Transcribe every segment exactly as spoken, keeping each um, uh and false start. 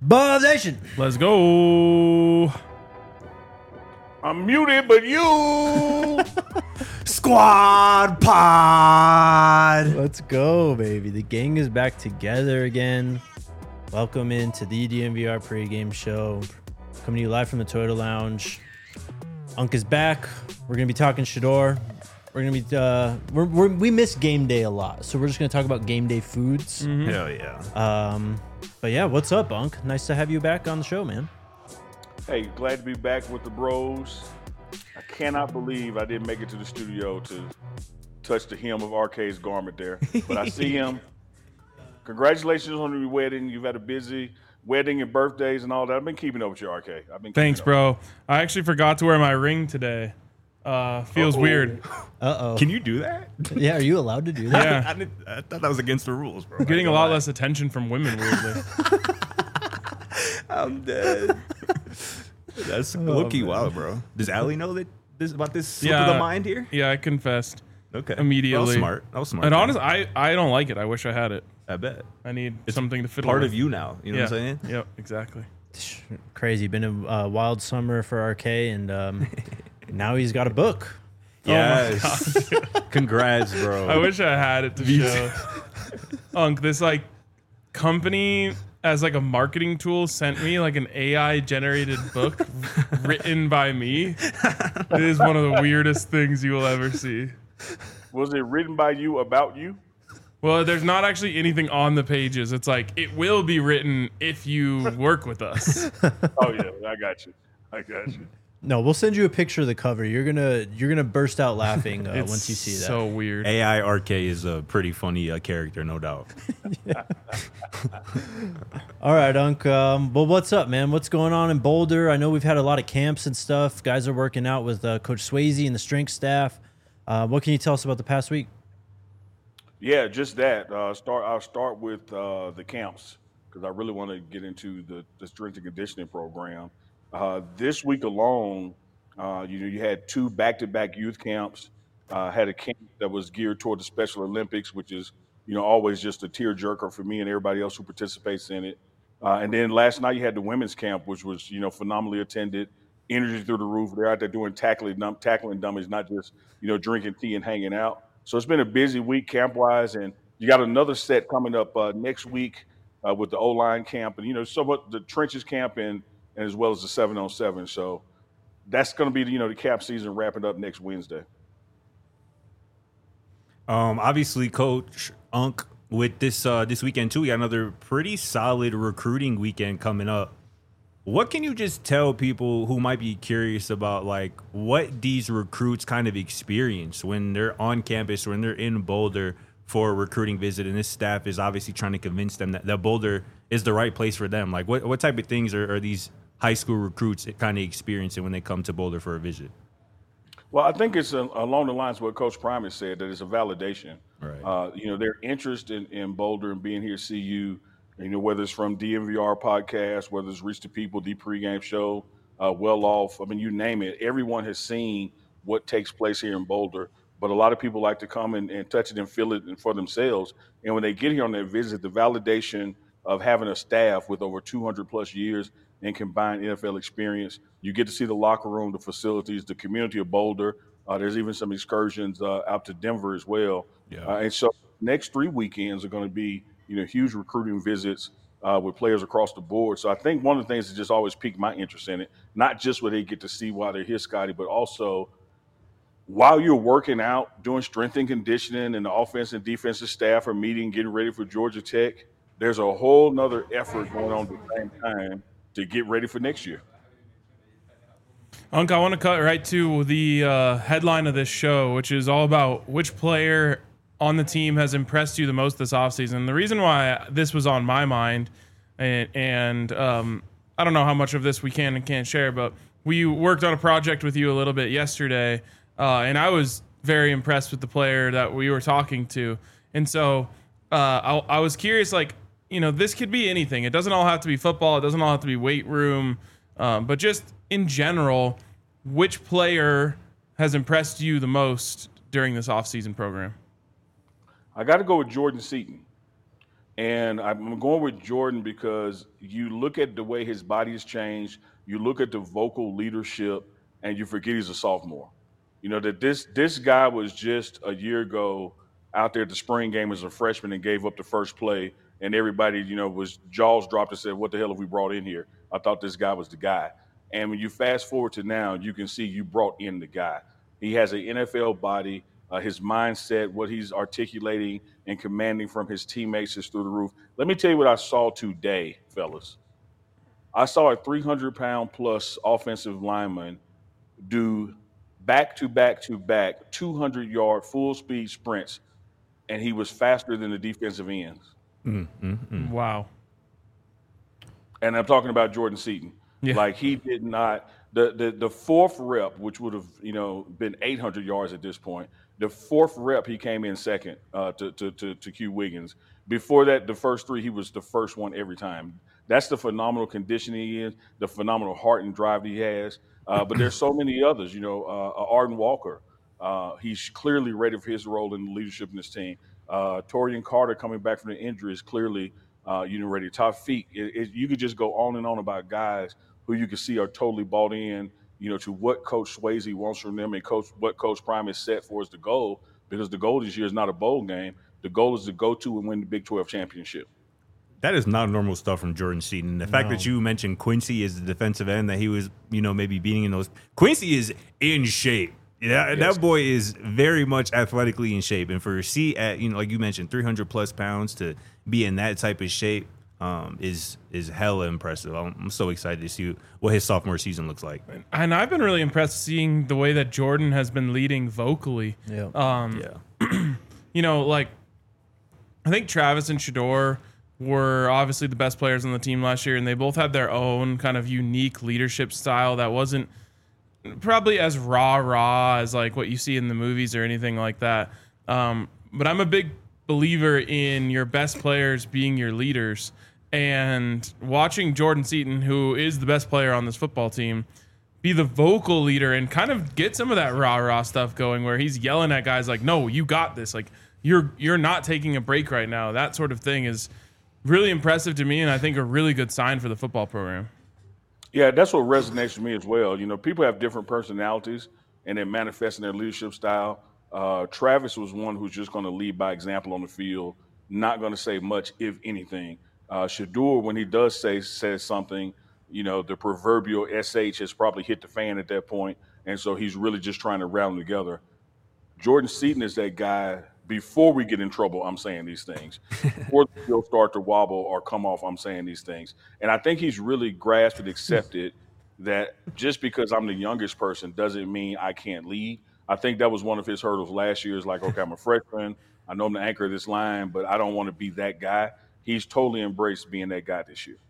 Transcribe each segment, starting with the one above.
Buzz Nation. Let's go. I'm muted, but you. Squad Pod. Let's go, baby. The gang is back together again. Welcome into the D N V R pregame show. Coming to you live from the Toyota Lounge. Unk is back. We're going to be talking Shedeur. We're going to be, uh, we're, we're, we miss game day a lot. So we're just going to talk about game day foods. Mm-hmm. Hell yeah. Um, but yeah, what's up, Unk? Nice to have you back on the show, man. Hey, glad to be back with the bros. I cannot believe I didn't make it to the studio to touch the hem of R K's garment there. But I see him. Congratulations on your wedding. You've had a busy wedding and birthdays and all that. I've been keeping up with you, R K. I've been Thanks, up. bro. I actually forgot to wear my ring today. Uh, feels Uh-oh. weird. Uh-oh. Can you do that? Yeah, are you allowed to do that? Yeah. I, didn't, I thought that was against the rules, bro. I'm getting a I lot ain't gonna less attention from women, weirdly. lie. I'm dead. That's low-key wild, bro. Does Allie know that this about this slip Yeah. of the mind here? Yeah, I confessed Okay. immediately. That was smart. That was smart. And man. honestly, I, I don't like it. I wish I had it. I bet. I need It's something to fiddle Part with. of you now. You know yeah. what I'm saying? Yep, exactly. Crazy. Been a uh, wild summer for R K, and um, now he's got a book. Yes. Congrats, bro. I wish I had it to show. Unk, this like company as like a marketing tool sent me like an A I generated book written by me. It is one of the weirdest things you will ever see. Was it written by you about you? Well, there's not actually anything on the pages. It's like it will be written if you work with us. Oh, yeah. I got you. I got you. No, we'll send you a picture of the cover. You're gonna you're gonna burst out laughing uh, It's once you see that. so weird. A I R K is a pretty funny uh, character, no doubt. All right, Unk. Um, well, what's up, man? What's going on in Boulder? I know we've had a lot of camps and stuff. Guys are working out with uh, Coach Swayze and the strength staff. Uh, what can you tell us about the past week? Yeah, just that. Uh, start. I'll start with uh, the camps because I really want to get into the, the strength and conditioning program. Uh, this week alone, uh, you know, you had two back-to-back youth camps. Uh, had a camp that was geared toward the Special Olympics, which is, you know, always just a tearjerker for me and everybody else who participates in it. Uh, and then last night you had the women's camp, which was, you know, phenomenally attended, energy through the roof. They're out there doing tackling, dum- tackling dummies, not just, you know, drinking tea and hanging out. So it's been a busy week camp-wise, and you got another set coming up uh, next week uh, with the O-line camp, and you know, somewhat the trenches camp, and, and as well as the seven on seven. So that's going to be, you know, the camp season wrapping up next Wednesday. Um, obviously, Coach Unk, with this uh, this weekend too, we got another pretty solid recruiting weekend coming up. What can you just tell people who might be curious about like what these recruits kind of experience when they're on campus, when they're in Boulder for a recruiting visit, and this staff is obviously trying to convince them that, that Boulder is the right place for them? Like what, what type of things are, are these high school recruits kind of experiencing when they come to Boulder for a visit? Well, I think it's a, along the lines of what Coach Prime has said, that it's a validation. Right. Uh, you know, their interest in, in Boulder and being here to see you, you know, whether it's from D M V R podcast, whether it's Reach the People, the pregame show, uh, Well Off, I mean, you name it. Everyone has seen what takes place here in Boulder, but a lot of people like to come and, and touch it and feel it for themselves. And when they get here on their visit, the validation of having a staff with over two hundred plus years in combined N F L experience, you get to see the locker room, the facilities, the community of Boulder. Uh, there's even some excursions uh, out to Denver as well. Yeah. Uh, and so next three weekends are going to be, you know, huge recruiting visits uh, with players across the board. So I think one of the things that just always piqued my interest in it, not just what they get to see while they're here, Scotty, but also while you're working out, doing strength and conditioning, and the offense and defensive staff are meeting, getting ready for Georgia Tech, there's a whole nother effort going on at the same time to get ready for next year. Unk, I want to cut right to the uh, headline of this show, which is all about which player on the team has impressed you the most this offseason. The reason why this was on my mind, and, and um, I don't know how much of this we can and can't share, but we worked on a project with you a little bit yesterday, uh, and I was very impressed with the player that we were talking to. And so uh, I, I was curious, like, you know, this could be anything. It doesn't all have to be football. It doesn't all have to be weight room. Um, but just in general, which player has impressed you the most during this offseason program? I got to go with Jordan Seaton. And I'm going with Jordan because you look at the way his body has changed, you look at the vocal leadership, and you forget he's a sophomore. You know, that this this guy was just a year ago out there at the spring game as a freshman and gave up the first play, and everybody, you know, was jaws dropped and said, what the hell have we brought in here? I thought this guy was the guy. And when you fast forward to now, you can see you brought in the guy. He has an N F L body. Uh, his mindset, what he's articulating and commanding from his teammates is through the roof. Let me tell you what I saw today, fellas. I saw a three hundred pound plus offensive lineman do back to back to back two hundred yard full speed sprints, and he was faster than the defensive ends. Mm, mm, mm. Wow. And I'm talking about Jordan Seaton. Yeah. Like he did not the, the the fourth rep, which would have, you know, been eight hundred yards at this point. The fourth rep, he came in second uh, to, to to to Q Wiggins. Before that, the first three, he was the first one every time. That's the phenomenal conditioning he is, the phenomenal heart and drive he has. Uh, but there's so many others, you know, uh, Arden Walker. Uh, he's clearly ready for his role in the leadership in this team. Uh, Torian Carter coming back from the injury is clearly, uh, you know, ready. Taufeeq, it, it, you could just go on and on about guys who you can see are totally bought in, you know, to what Coach Swayze wants from them and coach what Coach Prime has set for as the goal, because the goal this year is not a bowl game. The goal is to go to and win the Big twelve championship. That is not normal stuff from Jordan Seaton. The fact No. that you mentioned Quincy as the defensive end that he was, you know, maybe beating in those. Quincy is in shape. Yeah, Yes. that boy is very much athletically in shape. And for C at, you know, like you mentioned, three hundred plus pounds to be in that type of shape um, is is hella impressive. I'm, I'm so excited to see what his sophomore season looks like. And I've been really impressed seeing the way that Jordan has been leading vocally. Yeah. Um, Yeah. you know, like I think Travis and Shedeur were obviously the best players on the team last year, and they both had their own kind of unique leadership style that wasn't probably as rah rah as like what you see in the movies or anything like that. Um, but I'm a big believer in your best players being your leaders, and watching Jordan Seaton, who is the best player on this football team, be the vocal leader and kind of get some of that rah rah stuff going, where he's yelling at guys like, "No, you got this! Like you're you're not taking a break right now." That sort of thing is really impressive to me, and I think a really good sign for the football program. Yeah, that's what resonates with me as well. You know, people have different personalities, and they manifest in their leadership style. Uh, Travis was one who's just going to lead by example on the field, not going to say much, if anything. Uh, Shedeur, when he does say says something, you know, the proverbial S H has probably hit the fan at that point, and so he's really just trying to rally them together. Jordan Seaton is that guy. Before we get in trouble, I'm saying these things. Before the field start to wobble or come off, I'm saying these things. And I think he's really grasped and accepted that just because I'm the youngest person doesn't mean I can't lead. I think that was one of his hurdles last year. Is like, okay, I'm a freshman. I know I'm the anchor of this line, but I don't want to be that guy. He's totally embraced being that guy this year.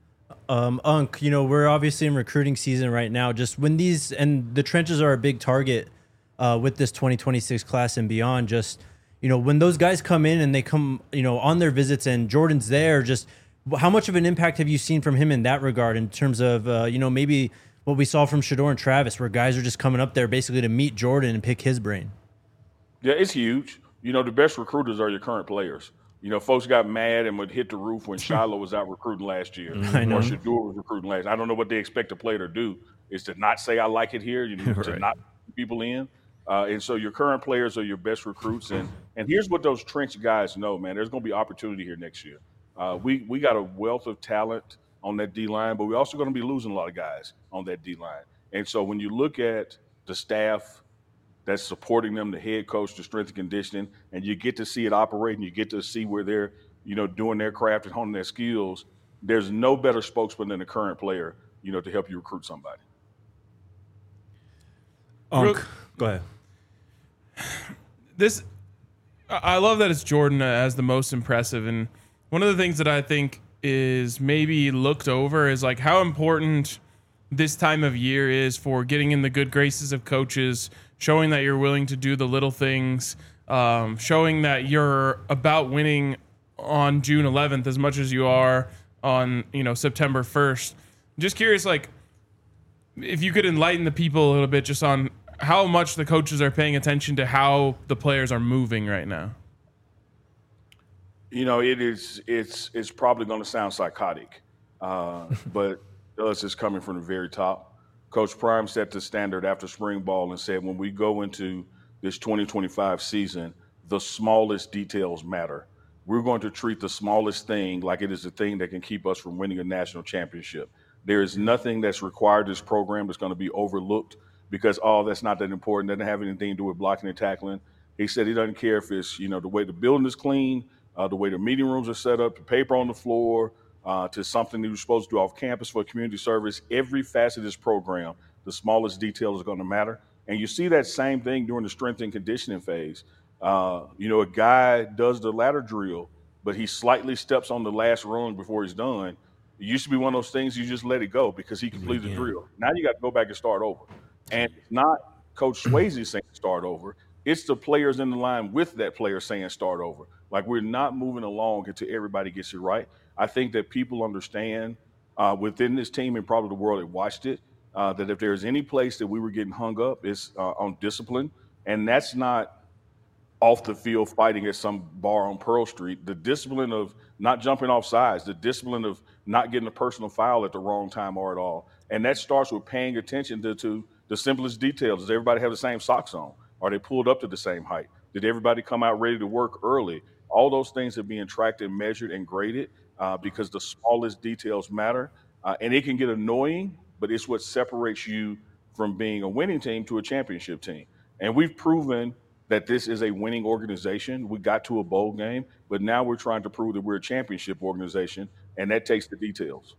Um, Unc, you know, we're obviously in recruiting season right now. Just when these, and the trenches are a big target uh, with this twenty twenty-six class and beyond, just, you know, when those guys come in and they come, you know, on their visits and Jordan's there, just how much of an impact have you seen from him in that regard in terms of, uh, you know, maybe what we saw from Shedeur and Travis, where guys are just coming up there basically to meet Jordan and pick his brain? Yeah, it's huge. You know, the best recruiters are your current players. You know, folks got mad and would hit the roof when Shiloh was out recruiting last year, I know. or Shedeur was recruiting last. I don't know what they expect a player to do, is to not say I like it here, you know, to Right. not put people in. Uh, and so your current players are your best recruits. And and here's what those trench guys know, man. There's going to be opportunity here next year. Uh, we we got a wealth of talent on that D-line, but we're also going to be losing a lot of guys on that D-line. And so when you look at the staff that's supporting them, the head coach, the strength and conditioning, and you get to see it operate and you get to see where they're, you know, doing their craft and honing their skills, there's no better spokesman than the current player, you know, to help you recruit somebody. Unc, Real- go ahead. This, I love that it's Jordan as the most impressive, and one of the things that I think is maybe looked over is like how important this time of year is for getting in the good graces of coaches, showing that you're willing to do the little things, um, showing that you're about winning on June eleventh as much as you are on, you know, September first. Just curious, like, if you could enlighten the people a little bit just on how much the coaches are paying attention to how the players are moving right now. You know, it is. It's it's probably going to sound psychotic, uh, but us is coming from the very top. Coach Prime set the standard after spring ball and said, when we go into this twenty twenty-five season, the smallest details matter. We're going to treat the smallest thing like it is the thing that can keep us from winning a national championship. There is nothing that's required this program that's going to be overlooked because oh, that's not that important. Doesn't have anything to do with blocking and tackling. He said he doesn't care if it's you know the way the building is clean, uh, the way the meeting rooms are set up, the paper on the floor, uh, to something that you're supposed to do off campus for community service. Every facet of this program, the smallest detail is going to matter. And you see that same thing during the strength and conditioning phase. Uh, you know, a guy does the ladder drill, but he slightly steps on the last rung before he's done. It used to be one of those things you just let it go because he completed the drill. Now you got to go back and start over. And it's not Coach Swayze saying start over. It's the players in the line with that player saying start over. Like we're not moving along until everybody gets it right. I think that people understand uh, within this team and probably the world that watched it uh, that if there's any place that we were getting hung up, it's uh, on discipline. And that's not off the field fighting at some bar on Pearl Street. The discipline of not jumping off sides, the discipline of not getting a personal foul at the wrong time or at all. And that starts with paying attention to, to the simplest details. Does everybody have the same socks on? Are they pulled up to the same height? Did everybody come out ready to work early? All those things are being tracked and measured and graded uh, because the smallest details matter. Uh, and it can get annoying, but it's what separates you from being a winning team to a championship team. And we've proven that this is a winning organization. We got to a bowl game, but now we're trying to prove that we're a championship organization, and that takes the details.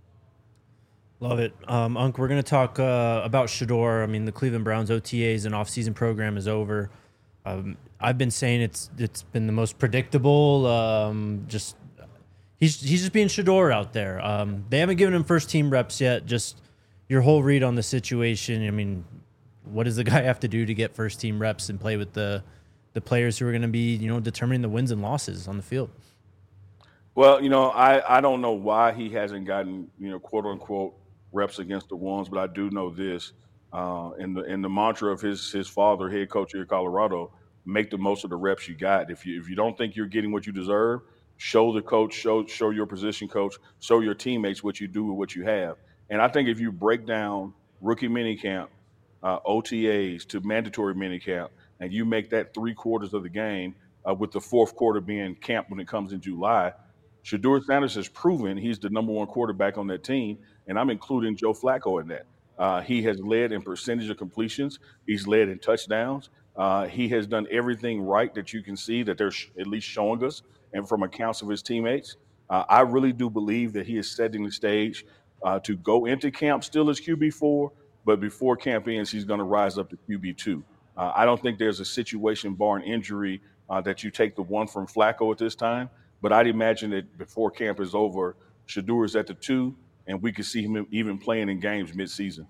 Love it. Um, Unc, we're going to talk uh, about Shedeur. I mean, the Cleveland Browns O T As and off-season program is over. Um, I've been saying it's it's been the most predictable. Um, just he's he's just being Shedeur out there. Um, they haven't given him first-team reps yet. Just your whole read on the situation. I mean, what does the guy have to do to get first-team reps and play with the the players who are going to be, you know, determining the wins and losses on the field? Well, you know, I, I don't know why he hasn't gotten, you know, quote unquote reps against the ones, but I do know this. Uh, in the in the mantra of his his father, head coach here at Colorado, make the most of the reps you got. If you if you don't think you're getting what you deserve, show the coach, show show your position coach, show your teammates what you do with what you have. And I think if you break down rookie minicamp, uh, O T As to mandatory minicamp, and you make that three quarters of the game, uh, with the fourth quarter being camp when it comes in July, Shedeur Sanders has proven he's the number one quarterback on that team, and I'm including Joe Flacco in that. Uh, he has led in percentage of completions. He's led in touchdowns. Uh, he has done everything right that you can see that they're sh- at least showing us, and from accounts of his teammates. Uh, I really do believe that he is setting the stage uh, to go into camp still as Q B four, but before camp ends, he's going to rise up to Q B two. Uh, I don't think there's a situation, barring injury, uh, that you take the one from Flacco at this time. But I'd imagine that before camp is over, Shedeur is at the two, and we could see him even playing in games mid-season.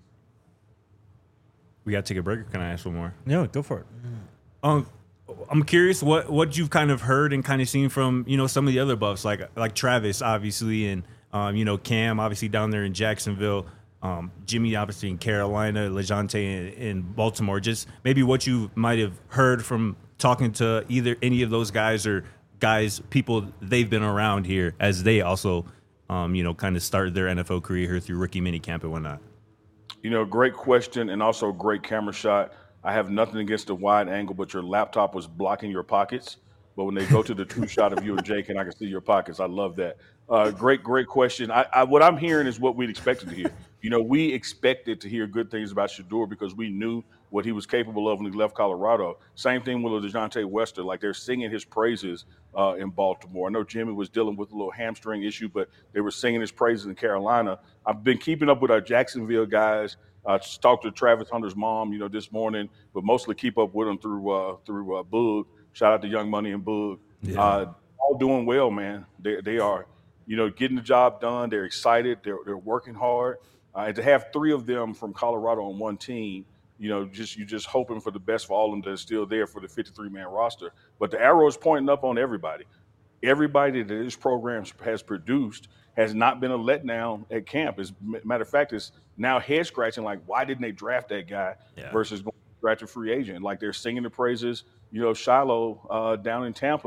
We got to take a break, or can I ask one more? No, go for it. Um, I'm curious what what you've kind of heard and kind of seen from, you know, some of the other buffs, like like Travis, obviously, and, um, you know, Cam, obviously, down there in Jacksonville. Um, Jimmy, obviously, in Carolina, LeJounte in, in Baltimore. Just maybe what you might have heard from talking to either any of those guys or guys, people they've been around here as they also, um, you know, kind of started their N F L career here through rookie minicamp and whatnot. You know, great question and also great camera shot. I have nothing against the wide angle, but your laptop was blocking your pockets. But when they go to the true shot of you and Jake, and I can see your pockets, I love that. Uh, great, great question. I, I, what I'm hearing is what we'd expected to hear. You know, we expected to hear good things about Shedeur because we knew what he was capable of when he left Colorado. Same thing with DeJounte Wester. Like, they're singing his praises uh, in Baltimore. I know Jimmy was dealing with a little hamstring issue, but they were singing his praises in Carolina. I've been keeping up with our Jacksonville guys. I uh, talked to Travis Hunter's mom, you know, this morning, but mostly keep up with him through uh, through uh, Boog. Shout out to Young Money and Boog. Yeah. Uh, all doing well, man. They they are, you know, getting the job done. They're excited. They're they're working hard. Uh, and to have three of them from Colorado on one team, you know, just you just hoping for the best for all of them that are still there for the fifty-three man roster. But the arrow is pointing up on everybody. Everybody that this program has produced has not been a letdown at camp. As a matter of fact, it's now head scratching, like, why didn't they draft that guy yeah. versus going to draft a free agent? Like, they're singing the praises, you know, Shiloh uh, down in Tampa.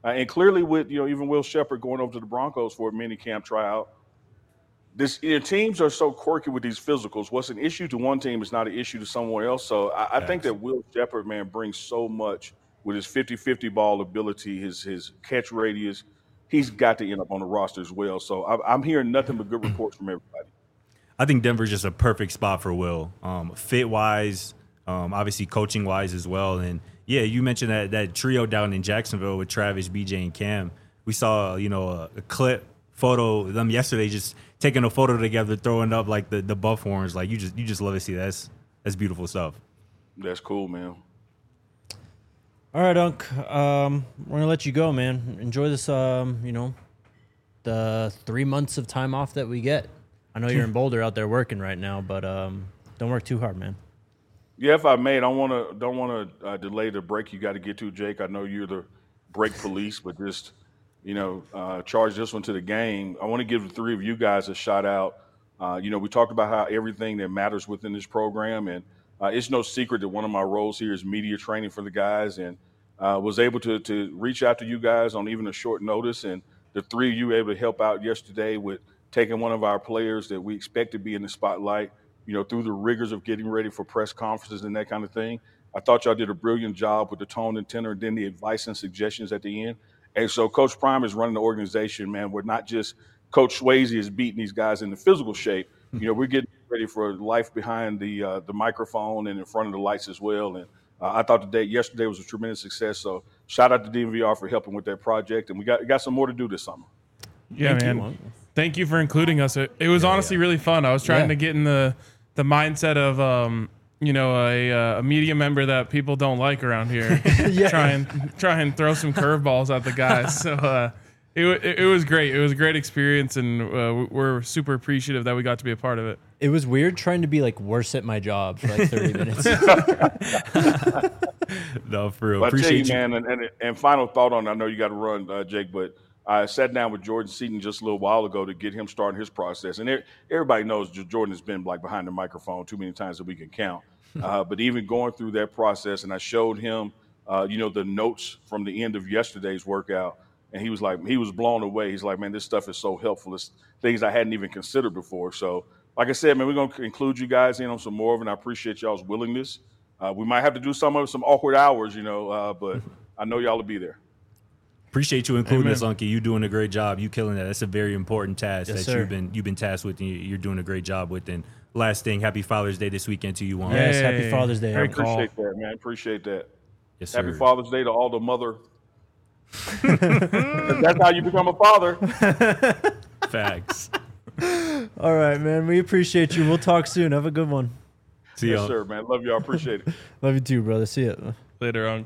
Uh, and clearly with, you know, even Will Shepherd going over to the Broncos for a mini camp tryout, this you know, teams are so quirky with these physicals. What's an issue to one team is not an issue to someone else. So I, I think that Will Shepherd, man, brings so much with his fifty-fifty ball ability, his his catch radius. He's got to end up on the roster as well. So I'm, I'm hearing nothing but good reports from everybody. I think Denver's just a perfect spot for Will, um, fit wise, um, obviously coaching wise as well. And yeah, you mentioned that that trio down in Jacksonville with Travis, B J, and Cam. We saw, you know, a, a clip photo of them yesterday, just taking a photo together, throwing up like the, the buff horns. Like you just you just love to see that. That's that's beautiful stuff. That's cool, man. All right, Unc. Um, we're gonna let you go, man. Enjoy this. Um, you know, the three months of time off that we get. I know you're in Boulder out there working right now, but um, don't work too hard, man. Yeah, if I may, I don't want to don't want to uh, delay the break you got to get to, Jake. I know you're the break police, but just you know, uh, charge this one to the game. I want to give the three of you guys a shout out. Uh, you know, we talked about how everything that matters within this program, and uh, it's no secret that one of my roles here is media training for the guys, and uh, was able to to reach out to you guys on even a short notice, and the three of you were able to help out yesterday with taking one of our players that we expect to be in the spotlight, you know, through the rigors of getting ready for press conferences and that kind of thing. I thought y'all did a brilliant job with the tone and tenor, and then the advice and suggestions at the end. And so Coach Prime is running the organization, man. We're not just Coach Swayze is beating these guys in the physical shape. You know, we're getting ready for life behind the uh, the microphone and in front of the lights as well. And uh, I thought today, yesterday was a tremendous success. So shout out to D M V R for helping with that project. And we got got some more to do this summer. Yeah, Thank man. you. Thank you for including us. It, it was Yeah, honestly yeah. really fun. I was trying Yeah. to get in the the mindset of um, you know, a uh, a media member that people don't like around here. Yeah. Try and try and throw some curveballs at the guys. So uh, it, wa- it it was great. It was a great experience, and uh, we're super appreciative that we got to be a part of it. It was weird trying to be like worse at my job for like thirty minutes. No, for real. But I tell Appreciate you, you. man, and, and, and final thought on, I know you got to run, uh, Jake, but I sat down with Jordan Seaton just a little while ago to get him starting his process. And er- everybody knows J- Jordan has been like behind the microphone too many times that we can count. Uh, but even going through that process, and I showed him, uh, you know, the notes from the end of yesterday's workout, and he was like, he was blown away. He's like, man, this stuff is so helpful. It's things I hadn't even considered before. So, like I said, man, we're going to include you guys in on some more of it, and I appreciate y'all's willingness. Uh, we might have to do some of some awkward hours, you know, uh, but I know y'all will be there. Appreciate you including Amen. us, Unky. You doing a great job. You killing that. That's a very important task Yes, that sir. you've been you've been tasked with, and you- you're doing a great job with. And last thing, happy Father's Day this weekend to you, Juan. Yes, Yay. happy Father's Day. Very Unc. cool. Appreciate that, man. Appreciate that. Yes, sir. Happy Father's Day to all the mother. That's how you become a father. Facts. All right, man. We appreciate you. We'll talk soon. Have a good one. See Yes, y'all. sir, man. Love y'all. Appreciate it. Love you too, brother. See ya. Later on.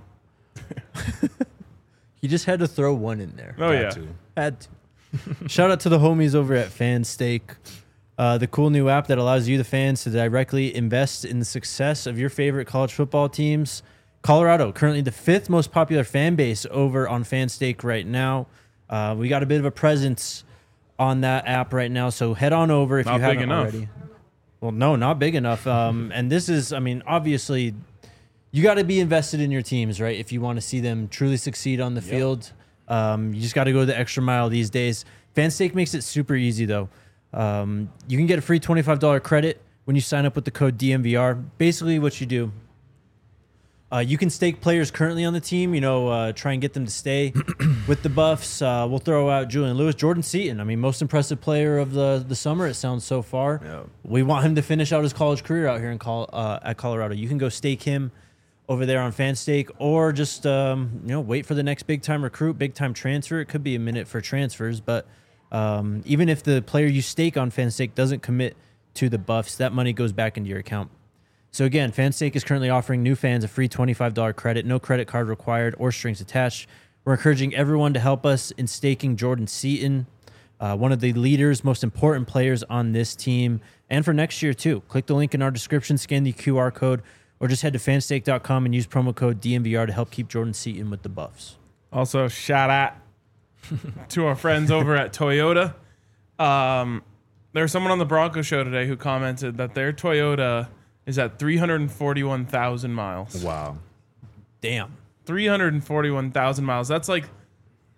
He just had to throw one in there. Oh Got yeah. to. Had to. Shout out to the homies over at FanStake, uh, the cool new app that allows you, the fans, to directly invest in the success of your favorite college football teams. Colorado, currently the fifth most popular fan base over on FanStake right now. Uh, we got a bit of a presence on that app right now, so head on over if Not you big haven't enough. already. Well, no, not big enough. Um, and this is, I mean, obviously, you got to be invested in your teams, right? If you want to see them truly succeed on the field, um, you just got to go the extra mile these days. FanStake makes it super easy, though. Um, you can get a free twenty-five dollars credit when you sign up with the code D M V R. Basically, what you do, uh, you can stake players currently on the team, you know, uh, try and get them to stay with the Buffs. Uh, we'll throw out Julian Lewis, Jordan Seaton. I mean, most impressive player of the, the summer, it sounds so far. Yeah. We want him to finish out his college career out here in Col- uh, at Colorado. You can go stake him over there on FanStake, or just um, you know, wait for the next big time recruit, big time transfer. It could be a minute for transfers, but um, even if the player you stake on FanStake doesn't commit to the Buffs, that money goes back into your account. So again, FanStake is currently offering new fans a free twenty-five dollars credit, no credit card required or strings attached. We're encouraging everyone to help us in staking Jordan Seaton, uh, one of the leaders, most important players on this team, and for next year too. Click the link in our description, scan the Q R code, or just head to fanstake dot com and use promo code D M V R to help keep Jordan Seaton with the Buffs. Also, shout out to our friends over at Toyota. Um, there was someone on the Bronco show today who commented that their Toyota is at three hundred forty-one thousand miles. Wow. Damn. three hundred forty-one thousand miles. That's like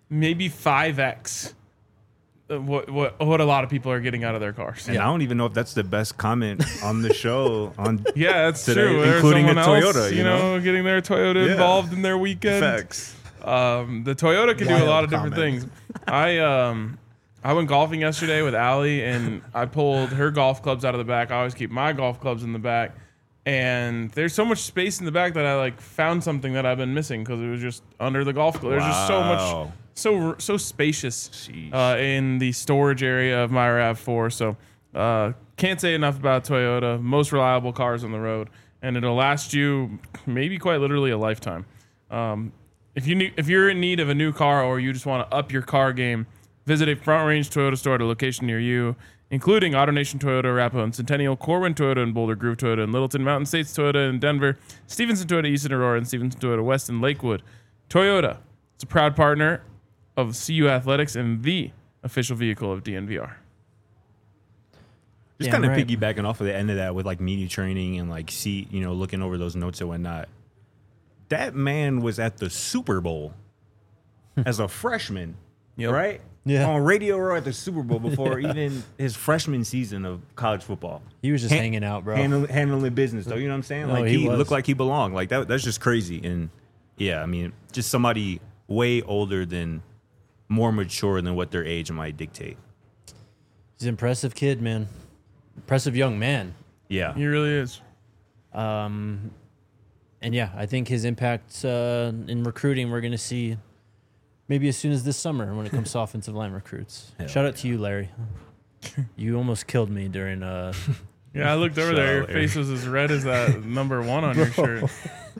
maybe five x what what what a lot of people are getting out of their cars. And yeah. I don't even know if that's the best comment on the show on yeah, that's today, true. including a Toyota. Else, you, you know? know, getting their Toyota yeah. involved in their weekend. Facts. Um, the Toyota can Wild do a lot of comment. different things. I um I went golfing yesterday with Allie, and I pulled her golf clubs out of the back. I always keep my golf clubs in the back. And there's so much space in the back that I like found something that I've been missing because it was just under the golf club. There's wow. just so much, so so spacious uh, in the storage area of my RAV four. So uh, can't say enough about Toyota. Most reliable cars on the road, and it'll last you maybe quite literally a lifetime. Um, if you need, if you're in need of a new car or you just want to up your car game, visit a Front Range Toyota store at a location near you, including AutoNation Toyota, Arapahoe and Centennial, Corwin Toyota and Boulder Grove Toyota and Littleton, Mountain States Toyota in Denver, Stevenson Toyota East in Aurora, and Stevenson Toyota West in Lakewood. Toyota is a proud partner of C U Athletics and the official vehicle of D N V R. Just yeah, kind of right. piggybacking off of the end of that with like media training and like see, you know, looking over those notes and whatnot. That man was at the Super Bowl as a freshman, yep. right? Yeah. On Radio Row at the Super Bowl before even his freshman season of college football. He was just Han- hanging out, bro. Handling, handling business, though. You know what I'm saying? No, like he, he was. looked like he belonged. Like that. That's just crazy. And yeah, I mean, just somebody way older than, more mature than what their age might dictate. He's an impressive kid, man. Impressive young man. Yeah, he really is. Um, and yeah, I think his impact uh, in recruiting we're going to see. Maybe as soon as this summer when it comes to offensive line recruits. Hell Shout out yeah. to you, Larry. You almost killed me during... Uh, yeah, I looked over there. Your Larry. face was as red as that number one on Bro. your shirt.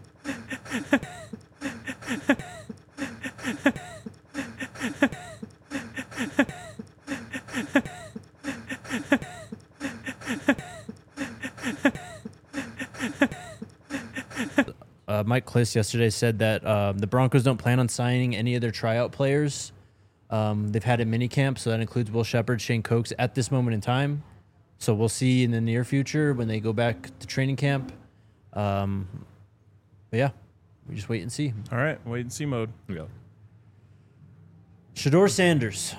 Uh, Mike Kliss yesterday said that uh, the Broncos don't plan on signing any of their tryout players. Um, they've had a mini camp, so that includes Will Shepherd, Shane Cokes at this moment in time. So we'll see in the near future when they go back to training camp. Um, but yeah, we just wait and see. All right, wait and see mode. Yeah. Shedeur Sanders.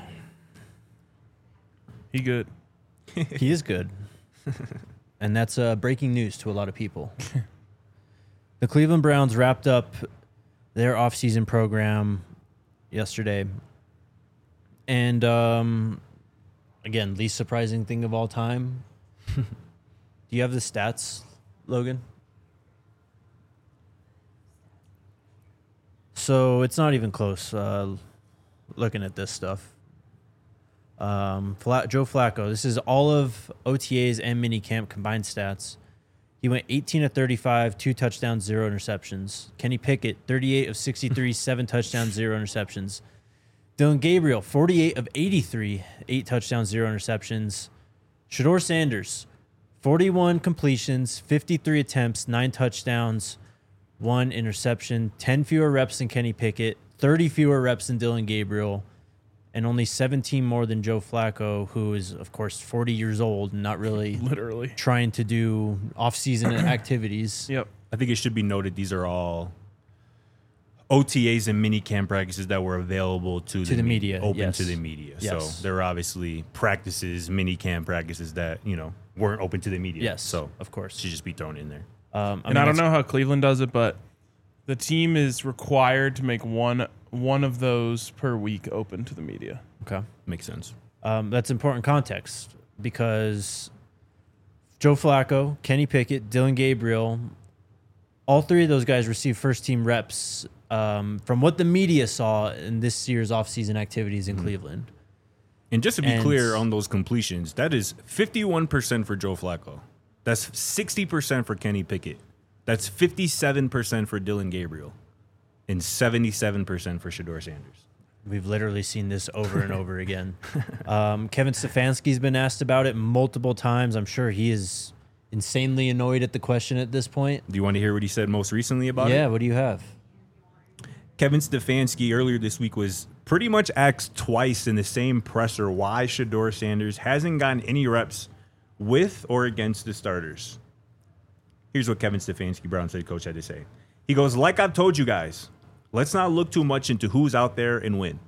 He good. He is good. And that's uh, breaking news to a lot of people. The Cleveland Browns wrapped up their offseason program yesterday. And, um, again, least surprising thing of all time. Do you have the stats, Logan? So it's not even close, uh, looking at this stuff. Um, Fla- Joe Flacco, this is all of O T As and minicamp combined stats. He went eighteen of thirty-five, two touchdowns, zero interceptions. Kenny Pickett, thirty-eight of sixty-three, seven touchdowns, zero interceptions. Dylan Gabriel, forty-eight of eighty-three, eight touchdowns, zero interceptions. Shedeur Sanders, forty-one completions, fifty-three attempts, nine touchdowns, one interception, ten fewer reps than Kenny Pickett, thirty fewer reps than Dylan Gabriel, and only seventeen more than Joe Flacco, who is, of course, forty years old and not really literally trying to do off-season activities. Yep. I think it should be noted these are all O T As and mini camp practices that were available to, to the, the media, open yes. to the media. Yes. So there were obviously practices, mini camp practices that, you know, weren't open to the media. Yes, so of course. Should just be thrown in there. Um, I and mean, I don't know how Cleveland does it, but the team is required to make one one of those per week open to the media. Okay. Makes sense. Um, that's important context because Joe Flacco, Kenny Pickett, Dylan Gabriel, all three of those guys received first-team reps um, from what the media saw in this year's offseason activities in mm-hmm. Cleveland. And just to be and clear on those completions, that is fifty-one percent for Joe Flacco. That's sixty percent for Kenny Pickett. That's fifty-seven percent for Dylan Gabriel. And seventy-seven percent for Shedeur Sanders. We've literally seen this over and over again. Um, Kevin Stefanski's been asked about it multiple times. I'm sure he is insanely annoyed at the question at this point. Do you want to hear what he said most recently about yeah, it? Yeah, what do you have? Kevin Stefanski earlier this week was pretty much asked twice in the same presser why Shedeur Sanders hasn't gotten any reps with or against the starters. Here's what Kevin Stefanski, Browns head coach, had to say. He goes, like I've told you guys, let's not look too much into who's out there and when.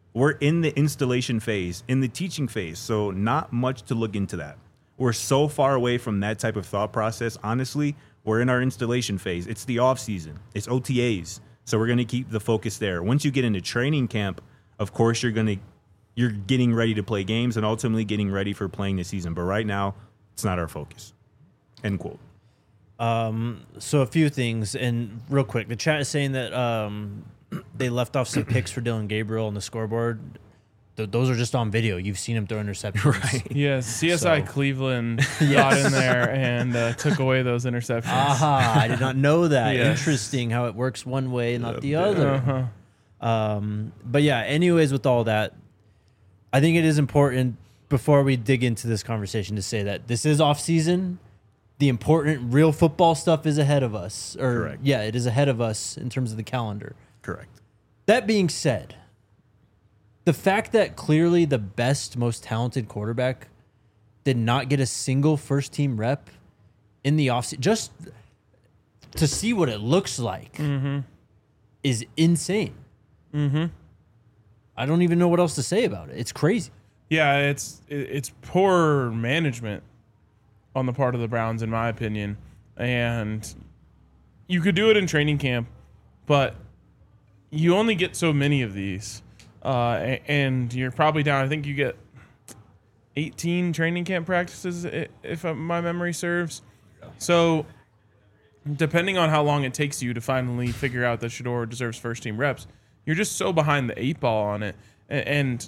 we're in the installation phase, in the teaching phase. So not much to look into that. We're so far away from that type of thought process. Honestly, we're in our installation phase. It's the off season. It's O T As. So we're going to keep the focus there. Once you get into training camp, of course, you're going to you're getting ready to play games and ultimately getting ready for playing the season. But right now, it's not our focus. End quote. Um, so a few things, and real quick, the chat is saying that um, they left off some picks for Dylan Gabriel on the scoreboard. Th- those are just on video. You've seen him throw interceptions. Right. Yes, C S I So- Cleveland Yes. got in there and uh, took away those interceptions. Aha, I did not know that. Yes. Interesting how it works one way, not the other. Uh-huh. Um, but yeah, anyways, with all that, I think it is important before we dig into this conversation to say that this is off season. The important real football stuff is ahead of us. Or Correct. yeah, it is ahead of us in terms of the calendar. Correct. That being said, the fact that clearly the best, most talented quarterback did not get a single first team rep in the offseason, just to see what it looks like, Mm-hmm. is insane. Mm-hmm. I don't even know what else to say about it. It's crazy. Yeah, it's it- it's poor management on the part of the Browns, in my opinion. And you could do it in training camp, but you only get so many of these. Uh, a- and you're probably down, I think you get eighteen training camp practices, i- if uh, my memory serves. So depending on how long it takes you to finally figure out that Shedeur deserves first team reps, you're just so behind the eight ball on it. A- And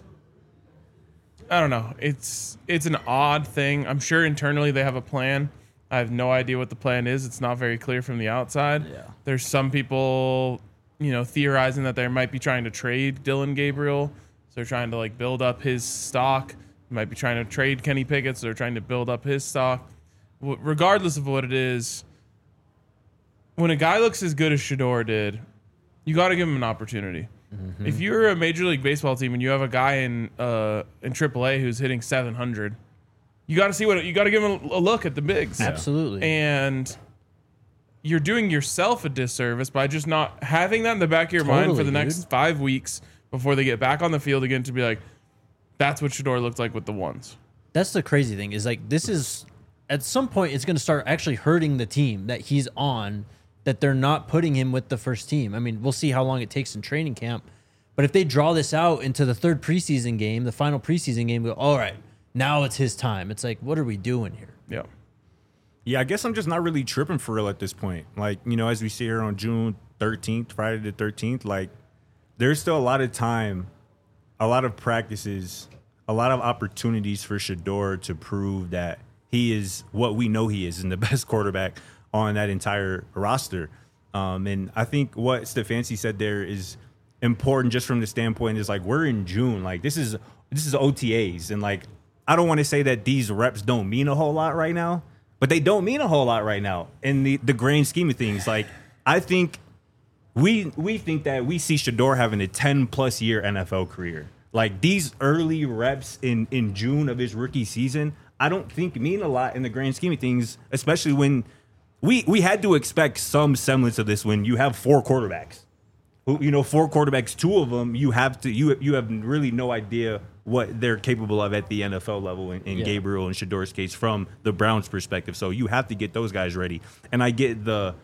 I don't know. It's it's an odd thing. I'm sure internally they have a plan. I have no idea what the plan is. It's not very clear from the outside. Yeah. There's some people, you know, theorizing that they might be trying to trade Dylan Gabriel. So they're trying to like build up his stock. Might be trying to trade Kenny Pickett. So they're trying to build up his stock. W- regardless of what it is, when a guy looks as good as Shedeur did, you got to give him an opportunity. Mm-hmm. If you're a Major League Baseball team and you have a guy in uh, in triple A who's hitting seven hundred, you got to see what you got to give him a look at the bigs. Absolutely. And you're doing yourself a disservice by just not having that in the back of your mind for Totally, the next dude. five weeks before they get back on the field again to be like, that's what Shedeur looked like with the ones. That's the crazy thing is like this is at some point it's going to start actually hurting the team that he's on, that they're not putting him with the first team. I mean, we'll see how long it takes in training camp, but if they draw this out into the third preseason game, the final preseason game, we go, all right, now it's his time. It's like, what are we doing here? Yeah. Yeah, I guess I'm just not really tripping for real at this point. Like, you know, as we see here on June thirteenth, Friday the thirteenth, like, there's still a lot of time, a lot of practices, a lot of opportunities for Shedeur to prove that he is what we know he is and the best quarterback on that entire roster. Um, and I think what Stefanski said there is important just from the standpoint is like, we're in June. Like, this is this is O T As. And, like, I don't want to say that these reps don't mean a whole lot right now, but they don't mean a whole lot right now in the, the grand scheme of things. Like, I think we we think that we see Shedeur having a ten-plus year N F L career. Like, these early reps in, in June of his rookie season, I don't think mean a lot in the grand scheme of things, especially when we we had to expect some semblance of this when you have four quarterbacks. Who, you know, four quarterbacks, two of them, you have to you you have really no idea what they're capable of at the N F L level in, in Yeah. Gabriel and Shedeur's case from the Browns' perspective. So you have to get those guys ready. And I get the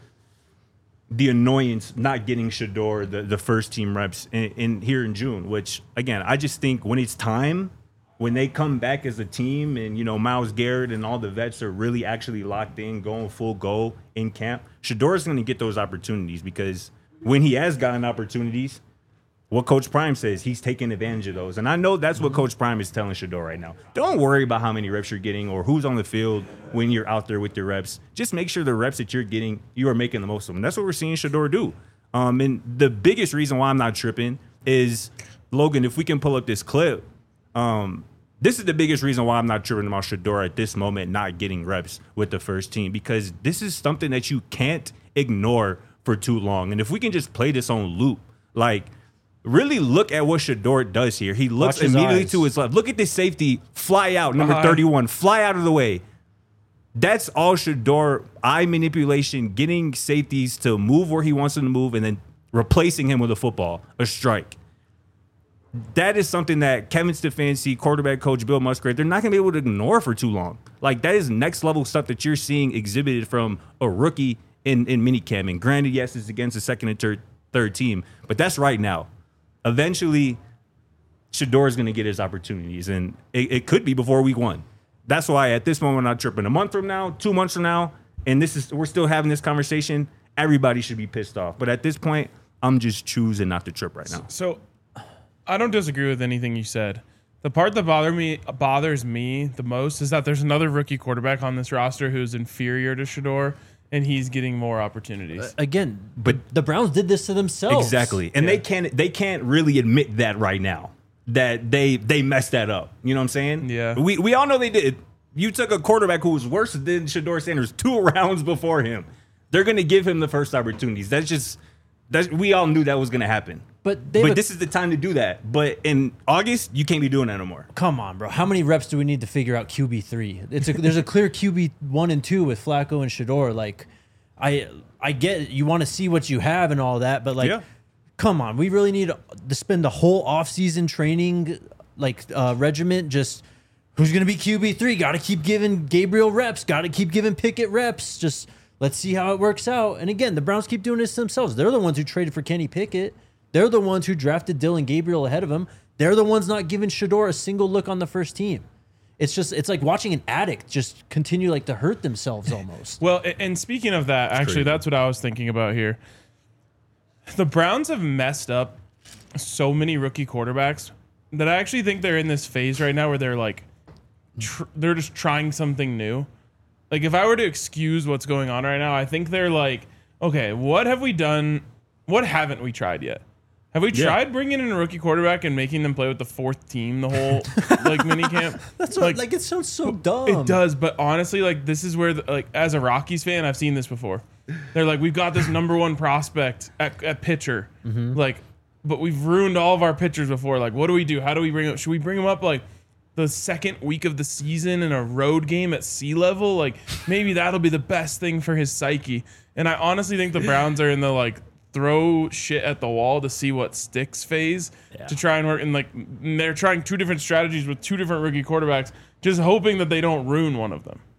the annoyance not getting Shedeur the, the first team reps in, in here in June, which again, I just think when it's time, when they come back as a team and, you know, Myles Garrett and all the vets are really actually locked in, going full go in camp, Shedeur is going to get those opportunities because when he has gotten opportunities, what Coach Prime says, he's taking advantage of those. And I know that's what Coach Prime is telling Shedeur right now. Don't worry about how many reps you're getting or who's on the field when you're out there with your reps. Just make sure the reps that you're getting, you are making the most of them. That's what we're seeing Shedeur do. Um, and the biggest reason why I'm not tripping is, Logan, if we can pull up this clip, um, this is the biggest reason why I'm not tripping about Shedeur at this moment not getting reps with the first team, because this is something that you can't ignore for too long. And if we can just play this on loop, like, really look at what Shedeur does here. He looks Watch his immediately eyes. to his left. Look at this safety fly out, number Uh-huh. thirty-one, fly out of the way. That's all Shedeur, eye manipulation, getting safeties to move where he wants them to move, and then replacing him with a football, a strike. that is something that Kevin Stefanski, quarterback coach Bill Musgrave, they're not going to be able to ignore for too long. Like, that is next level stuff that you're seeing exhibited from a rookie in, in minicamp. And granted, yes, it's against the second and third, third team, but that's right now. Eventually, Shedeur is going to get his opportunities, and it, it could be before week one. That's why at this moment, I'm not tripping. A month from now, two months from now, and this is we're still having this conversation, everybody should be pissed off. But at this point, I'm just choosing not to trip right now. So I don't disagree with anything you said. The part that bother me bothers me the most is that there's another rookie quarterback on this roster who's inferior to Shedeur, and he's getting more opportunities. Uh, again, but the Browns did this to themselves. Exactly, and Yeah. they can't they can't really admit that right now that they they messed that up. You know what I'm saying? Yeah. We we all know they did. You took a quarterback who was worse than Shedeur Sanders two rounds before him. They're going to give him the first opportunities. That's just that's we all knew that was going to happen. But they but have a- this is the time to do that. But in August, you can't be doing that no more. Come on, bro. How many reps do we need to figure out Q B three? It's a, there's a clear Q B one and two with Flacco and Shedeur. Like, I I get you want to see what you have and all that, but like, Yeah. come on, we really need to spend the whole offseason training like uh, regiment just who's gonna be Q B three? Got to keep giving Gabriel reps. Got to keep giving Pickett reps. Just let's see how it works out. And again, the Browns keep doing this themselves. They're the ones who traded for Kenny Pickett. They're the ones who drafted Dylan Gabriel ahead of him. They're the ones not giving Shedeur a single look on the first team. It's just, it's like watching an addict just continue like to hurt themselves almost. Well, a- and speaking of that, actually, crazy. that's what I was thinking about here. The Browns have messed up so many rookie quarterbacks that I actually think they're in this phase right now where they're like, tr- they're just trying something new. Like, if I were to excuse what's going on right now, I think they're like, okay, what have we done? What haven't we tried yet? Have we Yeah. tried bringing in a rookie quarterback and making them play with the fourth team the whole like mini camp? That's what, like, it sounds so dumb. It does, but honestly, like this is where, the, like, as a Rockies fan, I've seen this before. They're like, we've got this number one prospect at, at pitcher, like, but we've ruined all of our pitchers before. Like, what do we do? How do we bring up? Should we bring him up like the second week of the season in a road game at sea level? Like, maybe that'll be the best thing for his psyche. And I honestly think the Browns are in the like throw shit at the wall to see what sticks phase Yeah. to try and work. And like, they're trying two different strategies with two different rookie quarterbacks, just hoping that they don't ruin one of them.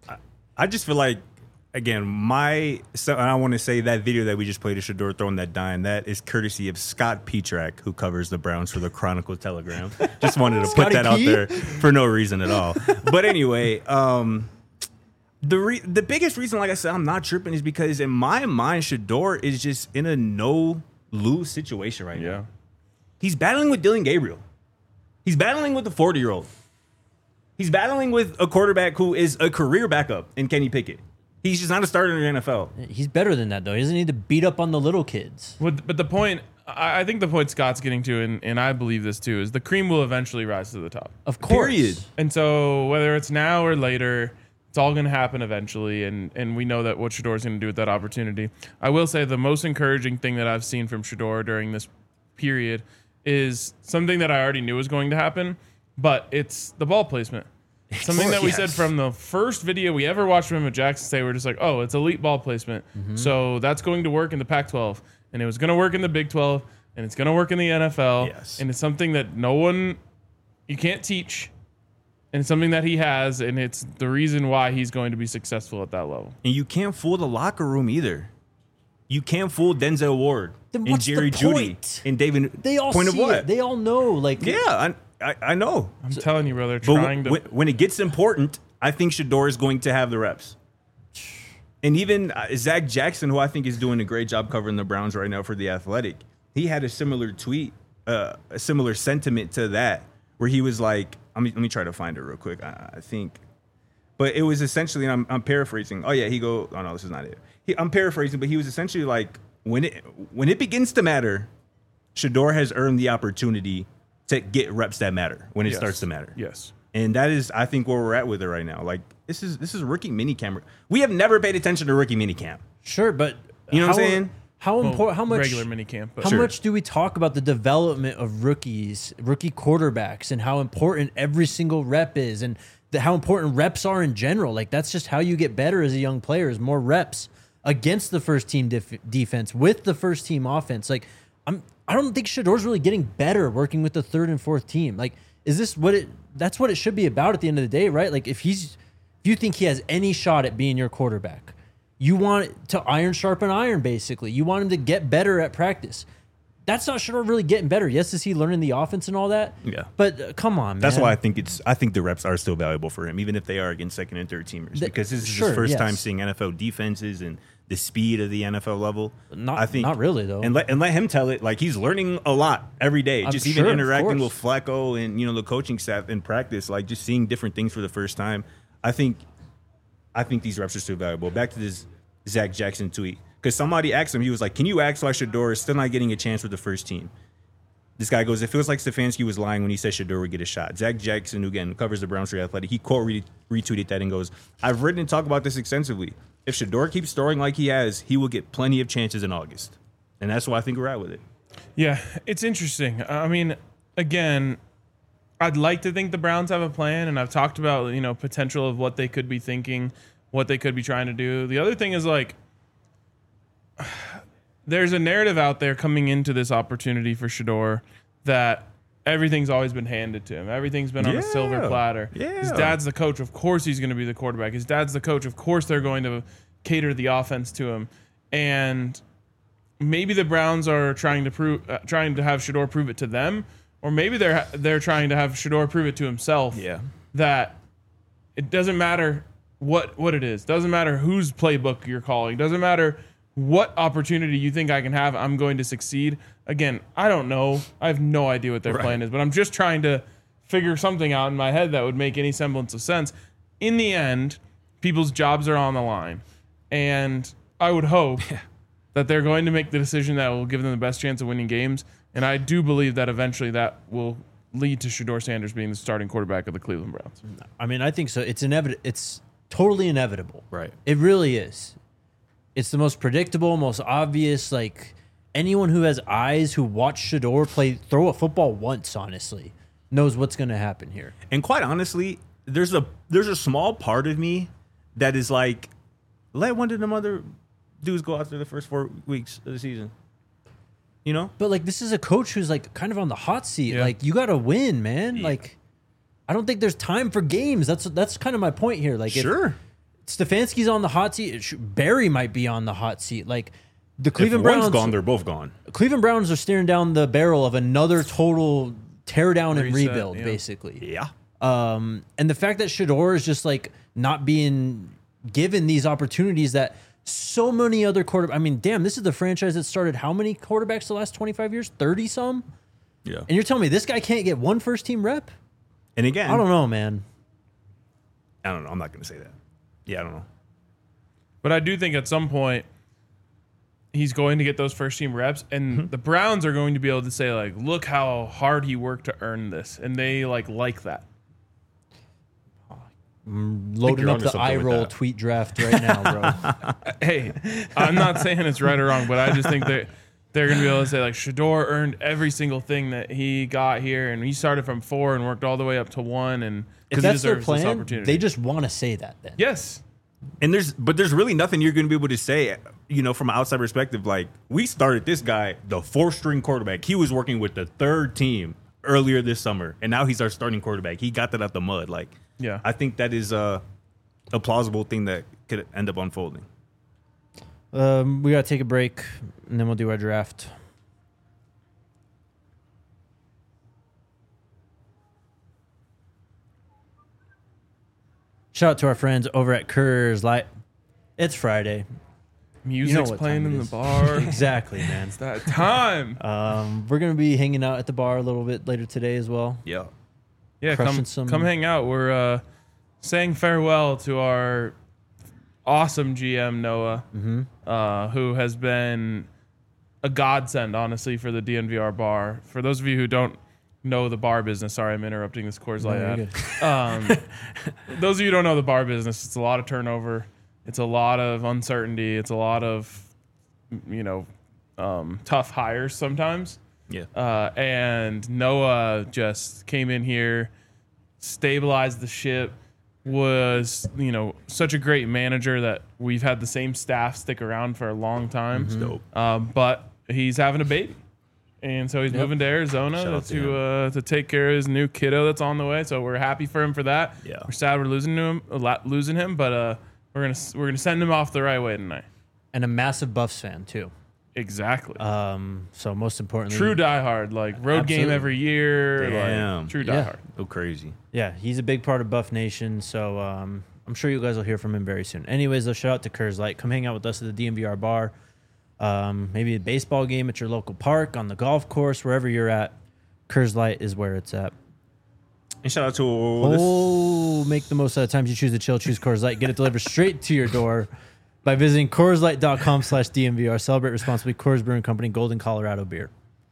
I just feel like, again, my so and I want to say that video that we just played of Shedeur throwing that dime, that is courtesy of Scott Petrak, who covers the Browns for the Chronicle Telegram. Just wanted to put Scotty that out P? there for no reason at all. But anyway, um, the re- the biggest reason, like I said, I'm not tripping is because in my mind, Shedeur is just in a no lose situation right now. He's battling with Dylan Gabriel. He's battling with the forty year old. He's battling with a quarterback who is a career backup in Kenny Pickett. He's just not a starter in the N F L. He's better than that, though. He doesn't need to beat up on the little kids. But, but the point, I I think the point Scott's getting to, and, and I believe this too, is the cream will eventually rise to the top. Of course. Period. And so whether it's now or later, it's all going to happen eventually, and, and we know that what Shedeur's going to do with that opportunity. I will say the most encouraging thing that I've seen from Shedeur during this period is something that I already knew was going to happen, but it's the ball placement. Something that we Yes. said from the first video we ever watched from him at Jackson State, we're just like, oh, it's elite ball placement. So that's going to work in the Pac twelve, and it was going to work in the Big twelve, and it's going to work in the N F L. Yes. And it's something that no one, you can't teach, and it's something that he has, and it's the reason why he's going to be successful at that level. And you can't fool the locker room either. You can't fool Denzel Ward Then and what's the Jerry Judy point? and David. They all point see of what? it. They all know. Like, yeah, I, I I know. I'm telling you, bro, they're But trying to. when, when it gets important, I think Shedeur is going to have the reps. And even uh, Zach Jackson, who I think is doing a great job covering the Browns right now for The Athletic, he had a similar tweet, uh, a similar sentiment to that, where he was like, let me, let me try to find it real quick. I, I think. But it was essentially, and I'm, I'm paraphrasing. Oh, yeah, he go, oh, no, this is not it. He, I'm paraphrasing, but he was essentially like, when it when it begins to matter, Shedeur has earned the opportunity to get reps that matter when it Yes. starts to matter. Yes. And that is, I think, where we're at with it right now. Like, this is this is rookie minicamp. We have never paid attention to rookie minicamp. sure, but You know how, what I'm saying? How Well, important? How much regular minicamp, but How Sure. much do we talk about the development of rookies, rookie quarterbacks, and how important every single rep is, and the, how important reps are in general? Like, that's just how you get better as a young player: is more reps against the first team def- defense with the first team offense. Like, I'm I don't think Shedor's really getting better working with the third and fourth team. Like, is this what it? That's what it should be about at the end of the day, right? Like, if he's, if you think he has any shot at being your quarterback, you want to iron sharpen iron. Basically, you want him to get better at practice. That's not Shedor really getting better. Yes, is he learning the offense and all that? Yeah. But uh, come on, man. That's why I think it's. I think the reps are still valuable for him, even if they are against second and third teamers, The- because this is sure, his first yes. time seeing N F L defenses and the speed of the N F L level. Not- I think not really, though. And let and let him tell it. Like, he's learning a lot every day. I'm just sure, even of interacting with course. Flacco and, you know, the coaching staff in practice, like just seeing different things for the first time. I think, I think these reps are still valuable. Back to this Zach Jackson tweet, because somebody asked him, he was like, "Can you ask why Shedor is still not getting a chance with the first team?" This guy goes, "It feels like Stefanski was lying when he said Shedor would get a shot." Zach Jackson, who again covers the Browns for The Athletic, he quote re- retweeted that and goes, "I've written and talked about this extensively. If Shedor keeps throwing like he has, he will get plenty of chances in August." And that's why I think we're at with it. Yeah, it's interesting. I mean, again, I'd like to think the Browns have a plan, and I've talked about, you know, potential of what they could be thinking, what they could be trying to do. The other thing is, like, there's a narrative out there coming into this opportunity for Shedor that everything's always been handed to him. Everything's been on a silver Yeah. platter. His Yeah. dad's the coach. Of course he's going to be the quarterback. His dad's the coach. Of course they're going to cater the offense to him. And maybe the Browns are trying to prove, uh, trying to have Shedor prove it to them, or maybe they're they're trying to have Shedor prove it to himself. Yeah. That it doesn't matter what what it is. Doesn't matter whose playbook you're calling. Doesn't matter what opportunity you think I can have. I'm going to succeed. Again, I don't know. I have no idea what their Right. plan is, but I'm just trying to figure something out in my head that would make any semblance of sense. In the end, people's jobs are on the line, and I would hope that they're going to make the decision that will give them the best chance of winning games. And I do believe that eventually that will lead to Shedor Sanders being the starting quarterback of the Cleveland Browns. I mean, I think so. It's inevitable. It's totally inevitable. Right. It really is. It's the most predictable, most obvious. Like, anyone who has eyes, who watched Shedor play, throw a football once, honestly, knows what's going to happen here. And quite honestly, there's a there's a small part of me that is like, let one of them other dudes go after the first four weeks of the season. You know? But, like, this is a coach who's, like, kind of on the hot seat. Yeah. Like, you got to win, man. Yeah. Like, I don't think there's time for games. That's that's kind of my point here. Like, if Sure. Stefanski's on the hot seat, it should- Barry might be on the hot seat. Like, the If Cleveland one's Browns gone, they're both gone. Cleveland Browns are staring down the barrel of another total tear down and Reset, rebuild, yeah. basically. Yeah. Um, and the fact that Shedor is just like not being given these opportunities that so many other quarterbacks. I mean, damn, this is the franchise that started how many quarterbacks the last twenty-five years? thirty some? Yeah. And you're telling me this guy can't get one first team rep? And again, I don't know, man. I don't know. I'm not going to say that. Yeah, I don't know. But I do think at some point he's going to get those first team reps, and the Browns are going to be able to say, like, look how hard he worked to earn this. And they like like that. Loading you're up onto the something eye with roll that. tweet draft right now, bro. Hey, I'm not saying it's right or wrong, but I just think that they're going to be able to say, like, Shedor earned every single thing that he got here, and he started from four and worked all the way up to one, and If he that's their deserves this plan, opportunity. they just want to say that then. yes. And there's, but there's really nothing you're going to be able to say, you know, from an outside perspective. Like, we started this guy, the fourth string quarterback. He was working with the third team earlier this summer, and now he's our starting quarterback. He got that out the mud. Like, Yeah. I think that is a, a plausible thing that could end up unfolding. Um, we got to take a break, and then we'll do our draft. Shout out to our friends over at Coors Light. It's Friday. Music's what playing time it in the is. bar. Exactly, man. It's that time. Um, we're gonna be hanging out at the bar a little bit later today as well. Yeah. Yeah, crushing come some- come hang out. We're uh, saying farewell to our awesome G M Noah, Mm-hmm. uh, who has been a godsend, honestly, for the D N V R bar. For those of you who don't know the bar business, sorry, I'm interrupting this Coors Light No, you're ad. Um, those of you who don't know the bar business, it's a lot of turnover. It's a lot of uncertainty. It's a lot of, you know, um, tough hires sometimes. Yeah. Uh, and Noah just came in here, stabilized the ship, was, you know, such a great manager that we've had the same staff stick around for a long time. Dope. Um, but he's having a baby. And so he's Yep. moving to Shout Arizona out to to uh, to take care of his new kiddo that's on the way. So we're happy for him for that. Yeah. We're sad we're losing to him, a lot, losing him, but uh, we're gonna we're gonna send him off the right way tonight. And a massive Buffs fan too. Exactly. Um, so most importantly, True diehard, like road game Absolutely. every year. Damn. Like, true Yeah. diehard. Go crazy. yeah, he's a big part of Buff Nation. So um, I'm sure you guys will hear from him very soon. Anyways, though, shout out to Kurz Light. Come hang out with us at the D M V R bar. Um, maybe a baseball game at your local park, on the golf course, wherever you're at. Kurz Light is where it's at. And shout out to all this. Oh, make the most out of times you choose to chill. Choose Coors Light. Get it delivered straight to your door by visiting Coors Light dot com slash D M V R. Celebrate responsibly. Coors Brewing Company, Golden, Colorado beer.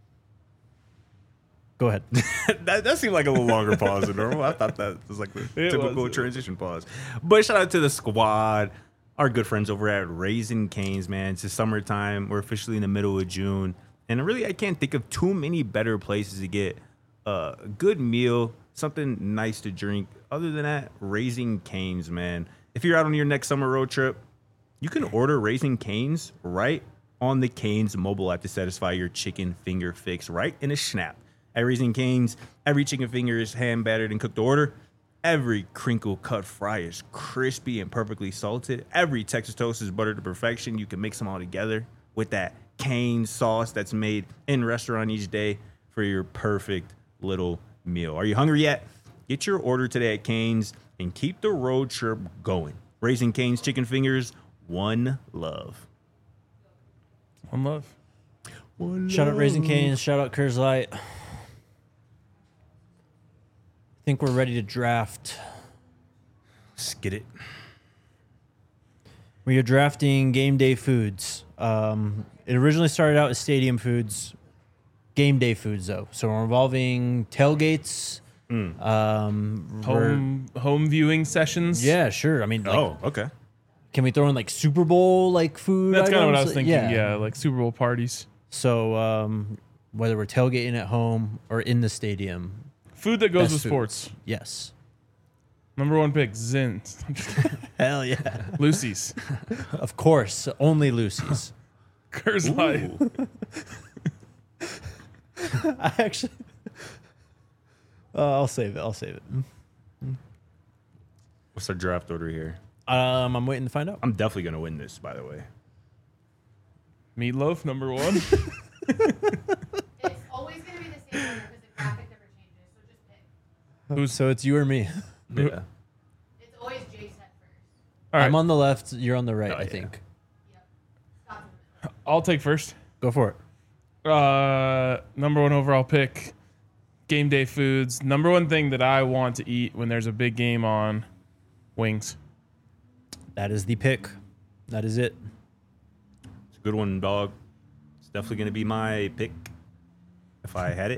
Go ahead. that, that seemed like a little longer pause than normal. I thought that was like the It typical was. transition pause. But shout out to the squad, our good friends over at Raising Cane's, man. It's the summertime. We're officially in the middle of June. And really, I can't think of too many better places to get a good meal, something nice to drink. Other than that, Raising Cane's, man. If you're out on your next summer road trip, you can order Raising Cane's right on the Cane's mobile app to satisfy your chicken finger fix right in a snap. At Raising Cane's, every chicken finger is hand battered and cooked to order. Every crinkle cut fry is crispy and perfectly salted. Every Texas toast is buttered to perfection. You can mix them all together with that Cane's sauce that's made in restaurant each day for your perfect little meal. Are you hungry yet? Get your order today at Cane's and keep the road trip going. Raising Cane's chicken fingers, one love. One love. One Shout out Raising Cane's. Shout out Coors Light. I think we're ready to draft. Skid it. We are drafting game day foods. Um, it originally started out as stadium foods, game day foods though. So we're involving tailgates. Mm. Um, we're- Home home viewing sessions. yeah, sure. I mean, like, Oh, okay. can we throw in like Super Bowl like food? That's kind of what I items? was thinking. Yeah. like Super Bowl parties. So um, whether we're tailgating at home or in the stadium, Food that goes Best with foods. sports. yes. Number one pick, Zins. Hell yeah. Lucy's. Of course, only Lucy's. Curse Light. I actually, uh, I'll save it. I'll save it. What's our draft order here? Um, I'm waiting to find out. I'm definitely going to win this, by the way. Meatloaf, number one. It's always going to be the same order because the graphic never changes. So just pick. Who's So it's you or me. Yeah. It's always Jason at first. All right, I'm on the left. You're on the right. Oh, I yeah. think. Yep. Stop in the middle. I'll take first. Go for it. Uh, number one overall pick, game day foods. Number one thing that I want to eat when there's a big game on, wings. That is the pick. That is it. It's a good one, dog. It's definitely going to be my pick if I had it.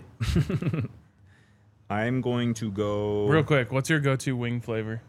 I'm going to go. Real quick, what's your go-to wing flavor?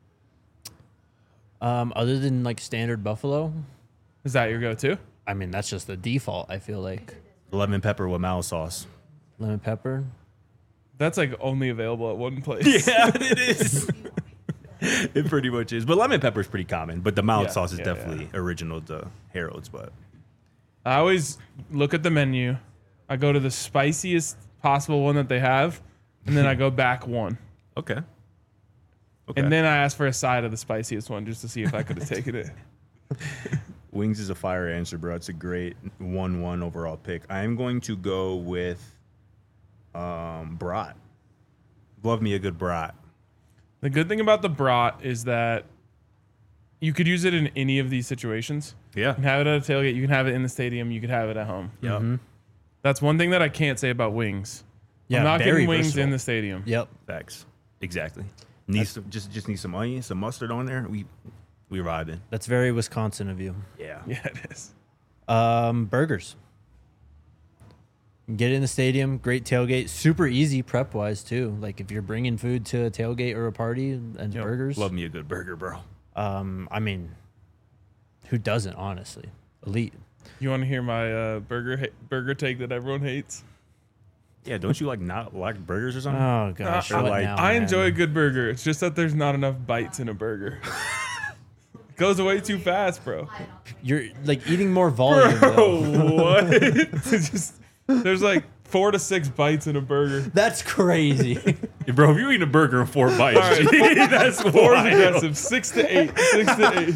Um, other than like standard buffalo, Is that your go-to? I mean that's just the default. I feel like lemon pepper with mal sauce. lemon pepper. That's like only available at one place. Yeah, it is. It pretty much is. But lemon pepper is pretty common. But the mild Yeah, sauce is yeah, definitely original to Harold's. But I always look at the menu. I go to the spiciest possible one that they have, and then I go back one. okay. Okay. And then I ask for a side of the spiciest one just to see if I could have taken it. Wings is a fire answer, bro. It's a great one one overall pick. I am going to go with um, brat. Love me a good brat. The good thing about the brat is that you could use it in any of these situations. Yeah. You can have it at a tailgate. You can have it in the stadium. You could have it at home. Yep. That's one thing that I can't say about wings. Yeah, I'm not very getting wings versatile. in the stadium. Yep. Facts. Exactly. Need some, just just need some onion, some mustard on there. We we vibing. That's very Wisconsin of you. Yeah. Yeah, it is. Um, burgers. Get it in the stadium. Great tailgate. Super easy prep wise too. Like if you're bringing food to a tailgate or a party and Yep. burgers. Love me a good burger, bro. Um, I mean, who doesn't? Honestly, elite. You want to hear my uh, burger ha- burger take that everyone hates? Yeah, don't you like not like burgers or something? Oh gosh, Uh, what like- now, I man? enjoy a good burger. It's just that there's not enough bites in a burger. It goes away too fast, bro. You're like eating more volume. Bro, though. what? It's just there's like four to six bites in a burger. That's crazy. Bro, if you eat a burger in four bites, All right. gee, that's Four is wild. aggressive. Six to eight. Six to eight.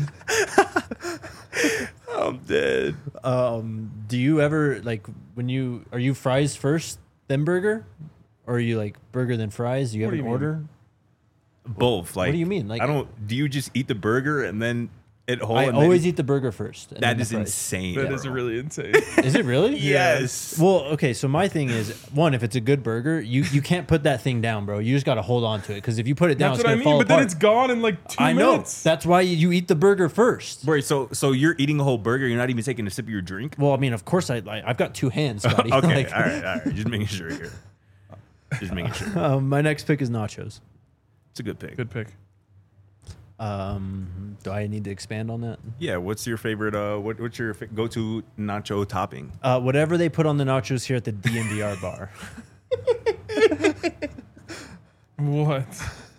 I'm dead. Um, do you ever like when you are you fries first, then burger, or are you like burger then fries? Do you have What do an you mean? order? Both. Like, do you mean? Like- I don't. Do you just eat the burger and then it whole? I and always then, eat the burger first. and then That the is fries. insane. That bro. is really insane. Is it really? Yes. Well, okay. So my thing is, one, if it's a good burger, you you can't put that thing down, bro. You just got to hold on to it because if you put it down, That's it's what I gonna mean. fall But then apart. it's gone in like two I know. minutes. That's why you eat the burger first. Wait, so so you're eating a whole burger? You're not even taking a sip of your drink? Well, I mean, of course, I like, I've got two hands, Scotty. Okay, Like, all right, all right. Just making sure here. Just making sure. um, my next pick is nachos. It's a good pick. Good pick. Um, do I need to expand on that? Yeah. What's your favorite? Uh, what, what's your fa- go-to nacho topping? Uh, whatever they put on the nachos here at the D M V R bar. What?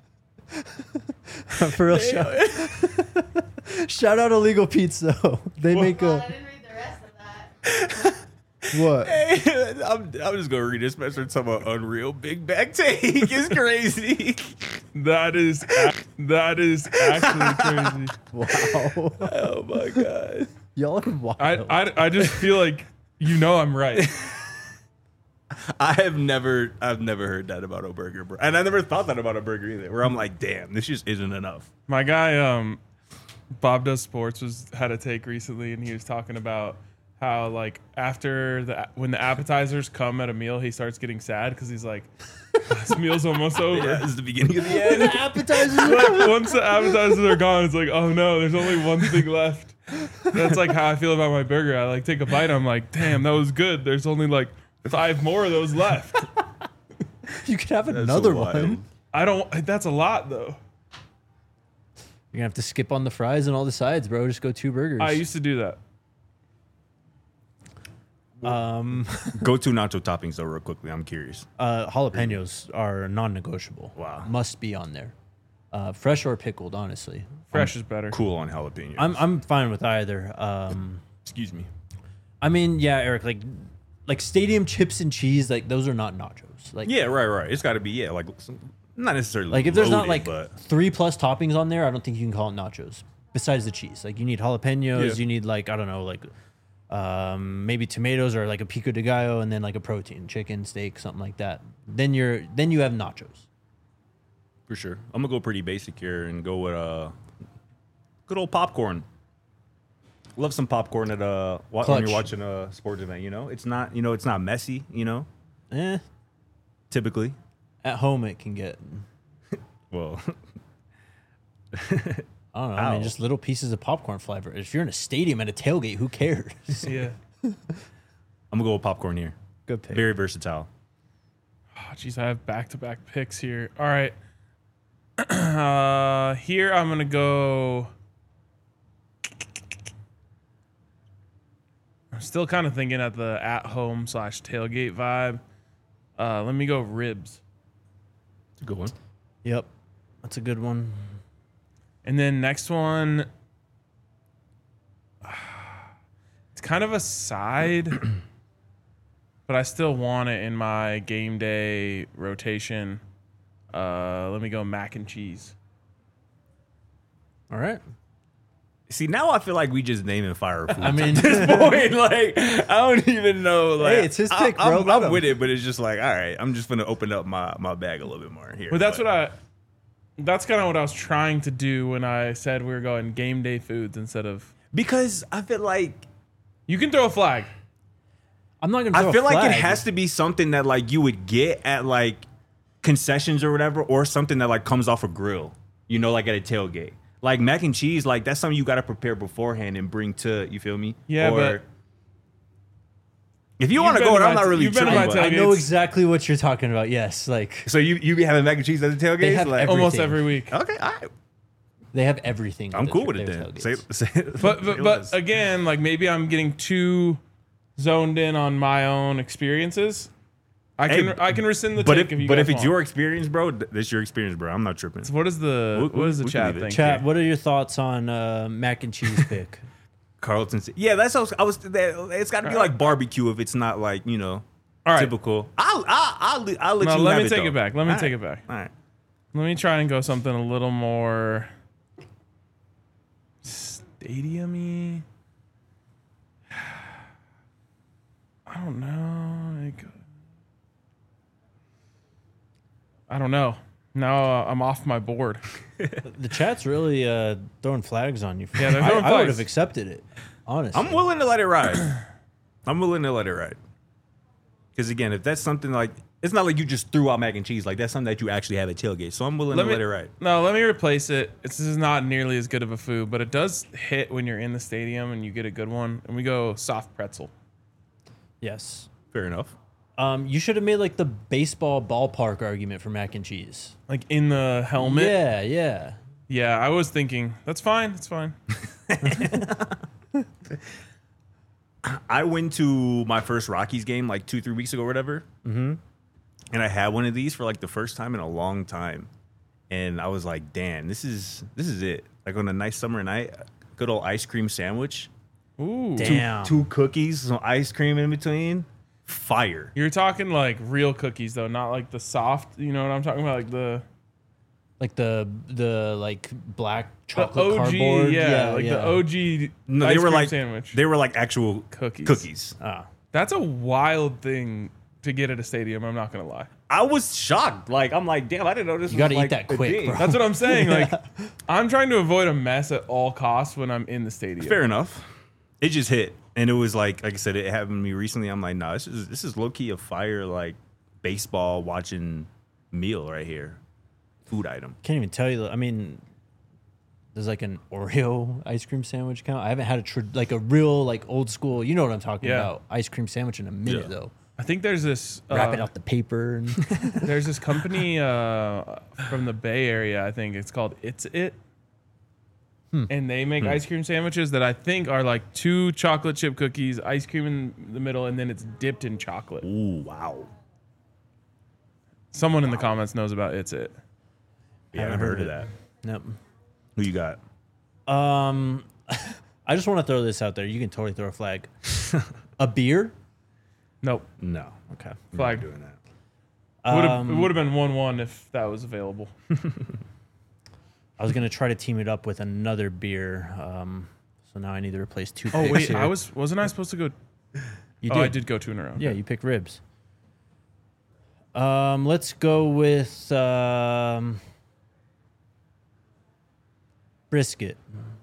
For real, shout, shout out Illegal Pizza. They make Well, I a didn't read the rest of that. what? I'm, I'm just gonna read this message. Talking about Unreal Big Back Take. It's crazy. That is ac- that is actually crazy. Wow, Oh my god. y'all are wild. I, I I just feel like you know I'm right. I have never, I've never heard that about a burger, bro. And I never thought that about a burger either. Where I'm like, damn, this just isn't enough. My guy, um, Bob Does Sports, was had a take recently, and he was talking about how like after the when the appetizers come at a meal, he starts getting sad because he's like, this meal's almost over. Yeah, this is the beginning of the end. Appetizers. Like, once the appetizers are gone, it's like, oh no, there's only one thing left. That's like how I feel about my burger. I like take a bite, I'm like, damn, that was good. There's only like five more of those left. You could have That's another wild. one. I don't. That's a lot though. You're gonna have to skip on the fries and all the sides, bro. Just go two burgers. I used to do that. um, Go-to nacho toppings though, real quickly. I'm curious. uh, jalapenos are non-negotiable. Wow. Must be on there. Uh, fresh or pickled, honestly. Fresh is better. Cool on jalapenos. I'm I'm fine with either. Um, Excuse me. I mean, yeah, Eric, like like stadium chips and cheese, like those are not nachos. Like Yeah, right, right. It's got to be yeah, like some, not necessarily like if there's not loaded, like but three plus toppings on there, I don't think you can call it nachos. Besides the cheese, like you need jalapenos, Yeah. you need like I don't know, like um, maybe tomatoes or like a pico de gallo, and then like a protein, chicken, steak, something like that. Then you're then you have nachos. for sure. I'm gonna go pretty basic here and go with uh, good old popcorn. Love some popcorn at uh wa- when Clutch. you're watching a sports event. You know, it's not you know it's not messy. You know, Eh, typically. at home it can get. Well, I don't know. I mean, Ow. just little pieces of popcorn flavor. If you're in a stadium at a tailgate, who cares? Yeah. I'm gonna go with popcorn here. Good pick. Very versatile. Oh, jeez, I have back-to-back picks here. All right. Uh, here I'm gonna go. I'm still kind of thinking at the at-home slash tailgate vibe. Uh, let me go ribs, It's a good one. Yep, that's a good one. and then next one. It's kind of a side, but I still want it in my game day rotation. Uh, let me go mac and cheese. All right. See, now I feel like we just naming fire food. I mean, at this point, like I don't even know. Like, Hey, it's his I- pick, bro. I'm, Let I'm him. with it, but it's just like, all right, I'm just gonna open up my, my bag a little bit more here. But that's what I. That's kind of what I was trying to do when I said we were going game day foods instead of. because I feel like You can throw a flag. I'm not gonna. I throw a feel like it flag. has to be something that like you would get at like concessions or whatever, or something that like comes off a grill. You know, like at a tailgate. Like mac and cheese, like that's something you got to prepare beforehand and bring to. You feel me? Yeah, or, but- if you You've want to been go, to it, I'm my- not really you've been to sure. my but- I tailgates. know exactly what you're talking about. Yes, like So you you be having mac and cheese at the tailgate? They have like, every- Almost Everything. every week. okay, all right. they have everything. I'm at cool their- with it their then. Say, tailgates. say, But say but, less. but again, like maybe I'm getting too zoned in on my own experiences. I Hey, can I can rescind the but take if, if you but guys if it's want. your experience, bro, th- this your experience, bro. I'm not tripping. What is the We- what is the we can chat leave it. thing? Chat. What are your thoughts on uh, mac and cheese pick? Carlton, yeah, that's how I was. That, it's got to be like barbecue if it's not like you know. All right. Typical. I'll I'll I'll, I'll let No, you let have me it, take though. it back. Let me All take right. it back. All right. Let me try and go something a little more stadium-y. I don't know. Like, I don't know. Now uh, I'm off my board. The chat's really uh, throwing flags on you. Yeah, they're I, throwing I would flags. have accepted it, honestly. I'm willing to let it ride. I'm willing to let it ride. Because again, if that's something like, it's not like you just threw out mac and cheese. Like that's something that you actually have at tailgate. So I'm willing Let to me, let it ride. No, let me replace it. It's, this is not nearly as good of a food, but it does hit when you're in the stadium and you get a good one. And we go soft pretzel. Yes. Fair enough. Um, you should have made like the baseball ballpark argument for mac and cheese. Like in the helmet. Yeah, yeah. Yeah, I was thinking, that's fine. That's fine. I went to my first Rockies game like two, three weeks ago or whatever. Mm-hmm. And I had one of these for like the first time in a long time. And I was like, damn, this is this is it. Like on a nice summer night, good old ice cream sandwich. Ooh. Damn. Two cookies, some ice cream in between. Fire. You're talking like real cookies though, not like the soft, you know what I'm talking about? Like the Like the the like black The chocolate O G, cardboard. yeah, like yeah. the O G No, ice they were cream like sandwich. they were like actual Cookies. Cookies. Ah. That's a wild thing to get at a stadium. I'm not gonna lie. I was shocked. Like I'm like, damn, I didn't know this. You was gotta eat like that a quick, thing. bro. That's what I'm saying. Like, I'm trying to avoid a mess at all costs when I'm in the stadium. Fair enough. It just hit, and it was like, like I said, it happened to me recently. I'm like, nah, this is this is low key a fire like baseball watching meal right here, food item. Can't even tell you. I mean, there's like an Oreo ice cream sandwich count. I haven't had a tr- like a real like old school. You know what I'm talking Yeah. about? Ice cream sandwich in a minute Yeah. though. I think there's this uh, Wrap it out the paper and there's this company uh, from the Bay Area. I think it's called It's It, Hmm. and they make ice cream sandwiches that I think are like two chocolate chip cookies, ice cream in the middle, and then it's dipped in chocolate. Ooh, wow. Someone in the comments knows about It's It. Yeah, I haven't heard of that. Nope. Who you got? Um, I just want to throw this out there. You can totally throw a flag. A beer? Nope. No. Okay. We're Flag. not doing that. Would have Um, it would have been one one if that was available. I was gonna try to team it up with another beer. Um, so now I need to replace two. Oh picks wait, here. I was wasn't I supposed to go? You Oh, I did go two in a row. Yeah, you picked ribs. Um, let's go with um, brisket.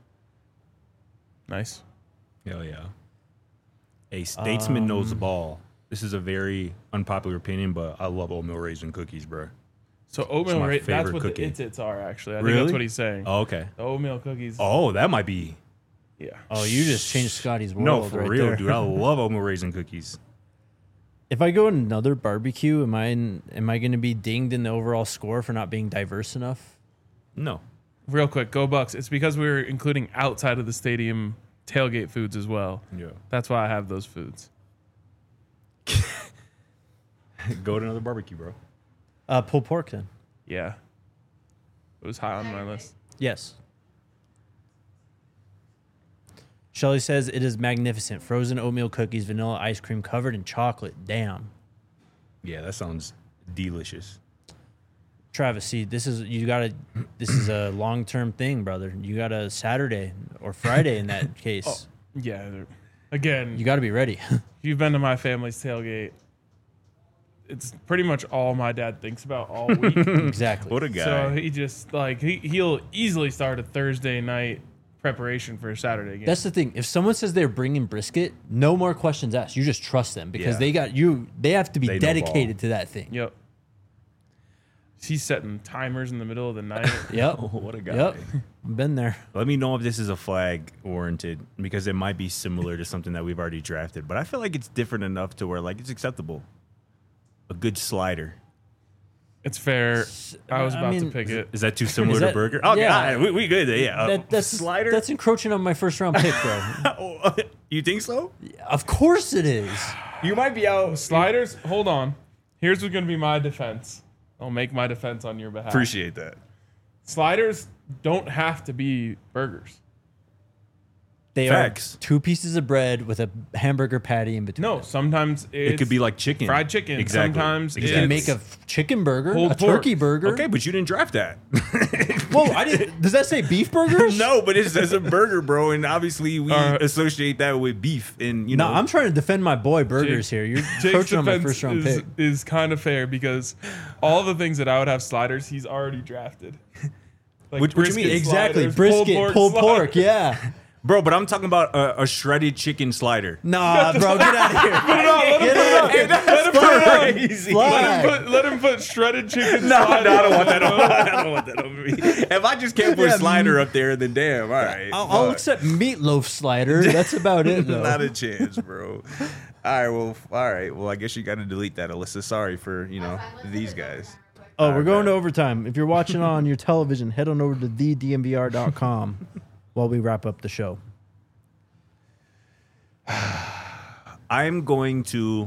Nice. Hell yeah. A statesman knows Um, the ball. This is a very unpopular opinion, but I love oatmeal raisin cookies, bro. So oatmeal, my ra- that's favorite what cookie. the It's Its are actually. I think Really? that's what he's saying. Oh, okay. The oatmeal cookies. Oh, that might be. Yeah. Oh, you just changed Scotty's world. No, for right real, there. dude. I love oatmeal raisin cookies. If I go another barbecue, am I in, am I going to be dinged in the overall score for not being diverse enough? No. Real quick, go Bucks. It's because we're including outside of the stadium tailgate foods as well. Yeah. That's why I have those foods. Go to another barbecue, bro. Uh, pulled pork then. Yeah. It was high on my list. Yes. Shelly says it is magnificent. Frozen oatmeal cookies, vanilla ice cream covered in chocolate. Damn. Yeah, that sounds delicious. Travis, see, this is you gotta this is a long term thing, brother. You got a Saturday or Friday in that case. Oh, yeah. they're- Again, You gotta be ready. if you've been to my family's tailgate, it's pretty much all my dad thinks about all week. Exactly. What a guy. So he just like he, he'll easily start a Thursday night preparation for a Saturday game. That's the thing. If someone says they're bringing brisket, no more questions asked. You just trust them because Yeah. they got you. They have to be They know dedicated ball. to that thing. Yep. He's setting timers in the middle of the night. Yep. Oh, what a guy. Yep. Been there. Let me know if this is a flag warranted because it might be similar to something that we've already drafted, but I feel like it's different enough to where like it's acceptable. A good slider. It's fair. I was I about to mean- pick it. Is that too similar Is to that- burger? Okay, yeah. all right, we, we good. there, Yeah. Uh, That, that's slider. That's encroaching on my first round pick, bro. You think so? Of course it is. You might be out. Sliders, hold on. Here's what's going to be my defense. I'll make my defense on your behalf. Appreciate that. Sliders don't have to be burgers. They Facts. are two pieces of bread with a hamburger patty in between. No, them. sometimes it's It could be like chicken. fried chicken. Exactly. Sometimes You it's can make a f- chicken burger, pulled a pork. turkey burger. Okay, but you didn't draft that. Whoa, I didn't. Does that say beef burgers? No, but it says a burger, bro, and obviously we Uh, associate that with beef, and you No, know. I'm trying to defend my boy burgers here. You're Jake's coaching on my defense first round is, pick. is kind of fair because all the things that I would have sliders, he's already drafted. Like What- what you mean? brisket Exactly, sliders, brisket, pulled pork, sliders. yeah. Bro, but I'm talking about a, a shredded chicken slider. Nah, bro, get out of here. Put it on, let him Get put it on. out. Let him put it on. Crazy. Let Flag. him put, let him put shredded chicken. No, no, sliders I don't want that. on On, I don't want that over me. If I just can't put Yeah, a slider up there, then damn, all right. I'll, I'll But accept meatloaf slider. That's about it, though. not a chance, bro. All right, well, all right. Well, I guess you got to delete that, Alyssa. Sorry for you know these guys. Oh, we're Alright, going to bet. overtime. If you're watching on your television, head on over to the d m v r dot com while we wrap up the show. I'm going to.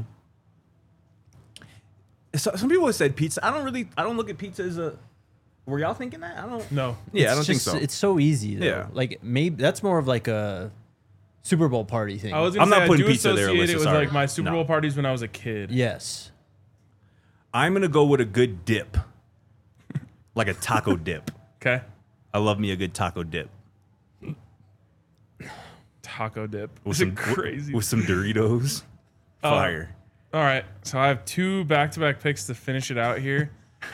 So, some people have said pizza. I don't really. I don't look at pizza as a. Were y'all thinking that? I don't. No. Yeah, It's I don't just- think so. It's so easy. Though. Yeah. Like maybe that's more of like a Super Bowl party thing. I was gonna I'm say not I putting do pizza there, associate Alyssa, it with sorry. like my Super No. Bowl parties when I was a kid. yes. I'm gonna go with a good dip, like a taco dip. Okay. I love me a good taco dip Taco dip. with Is some it crazy? with some Doritos. Oh. Fire. All right. So I have two back-to-back picks to finish it out here.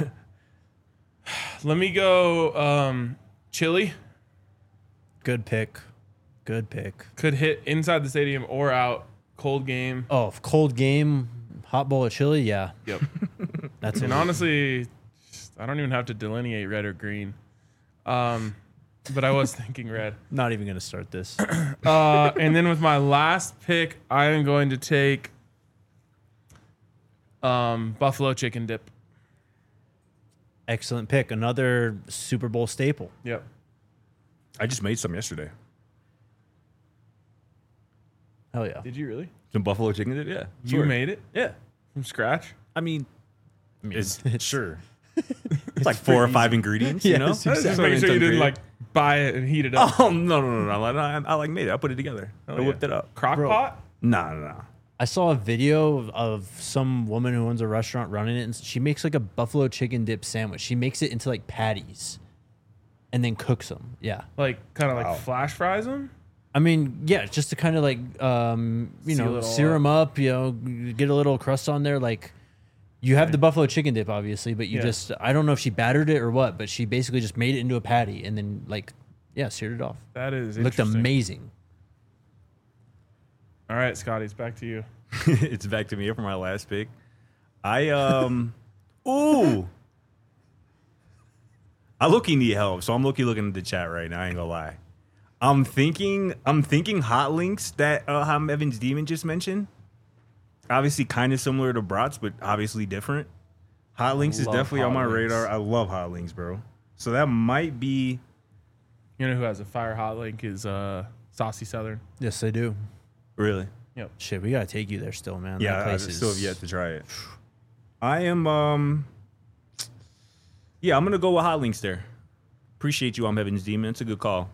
Let me go um, chili. Good pick. Good pick. Could hit inside the stadium or out. Cold game. Oh, cold game, hot bowl of chili. Yeah, Yep. that's And it. honestly, I don't even have to delineate red or green. Um, but I was thinking red. Not even gonna start this. Uh, and then with my last pick, I am going to take um, buffalo chicken dip. Excellent pick. Another Super Bowl staple. Yep. I just made some yesterday. Hell yeah. Did you really? Some buffalo chicken dip. Yeah. You sure. made it Yeah. from scratch? I mean, I mean, it's sure. It's like four or five ingredients. You Yeah, know. it's I was just Exactly. making sure you didn't like buy it and heat it up. Oh no no no no! I, I, I like made it. I put it together. I yeah. whipped it up. Crock Bro. pot? Nah nah nah. I saw a video of, of some woman who owns a restaurant running it, and she makes like a buffalo chicken dip sandwich. She makes it into like patties, and then cooks them. Yeah. Like kind of Wow. like flash fries them? I mean, yeah, just to kind of like, um, you Seal know, it all sear them up, you know, get a little crust on there. Like, you have the buffalo chicken dip, obviously, but you Yeah. just, I don't know if she battered it or what, but she basically just made it into a patty and then, like, yeah, seared it off. That is Looked interesting. amazing. All right, Scotty, it's back to you. It's back to me for my last pick. I um, ooh, I look-y need help, so I'm look-y looking at the chat right now. I ain't gonna lie. I'm thinking, I'm thinking hot links that uh, Ham Evans Demon just mentioned. Obviously, kind of similar to brats, but obviously different. Hot links is love definitely on hot my links. radar. I love hot links, bro. So that might be. You know who has a fire hot link is uh, Saucy Southern. Yes, they do. Really? Yep. Shit, we got to take you there still, man. Yeah, That I place still is- have yet to try it. I am, um, yeah, I'm gonna go with hot links there. Appreciate you, I'm Heaven's Demon. It's a good call.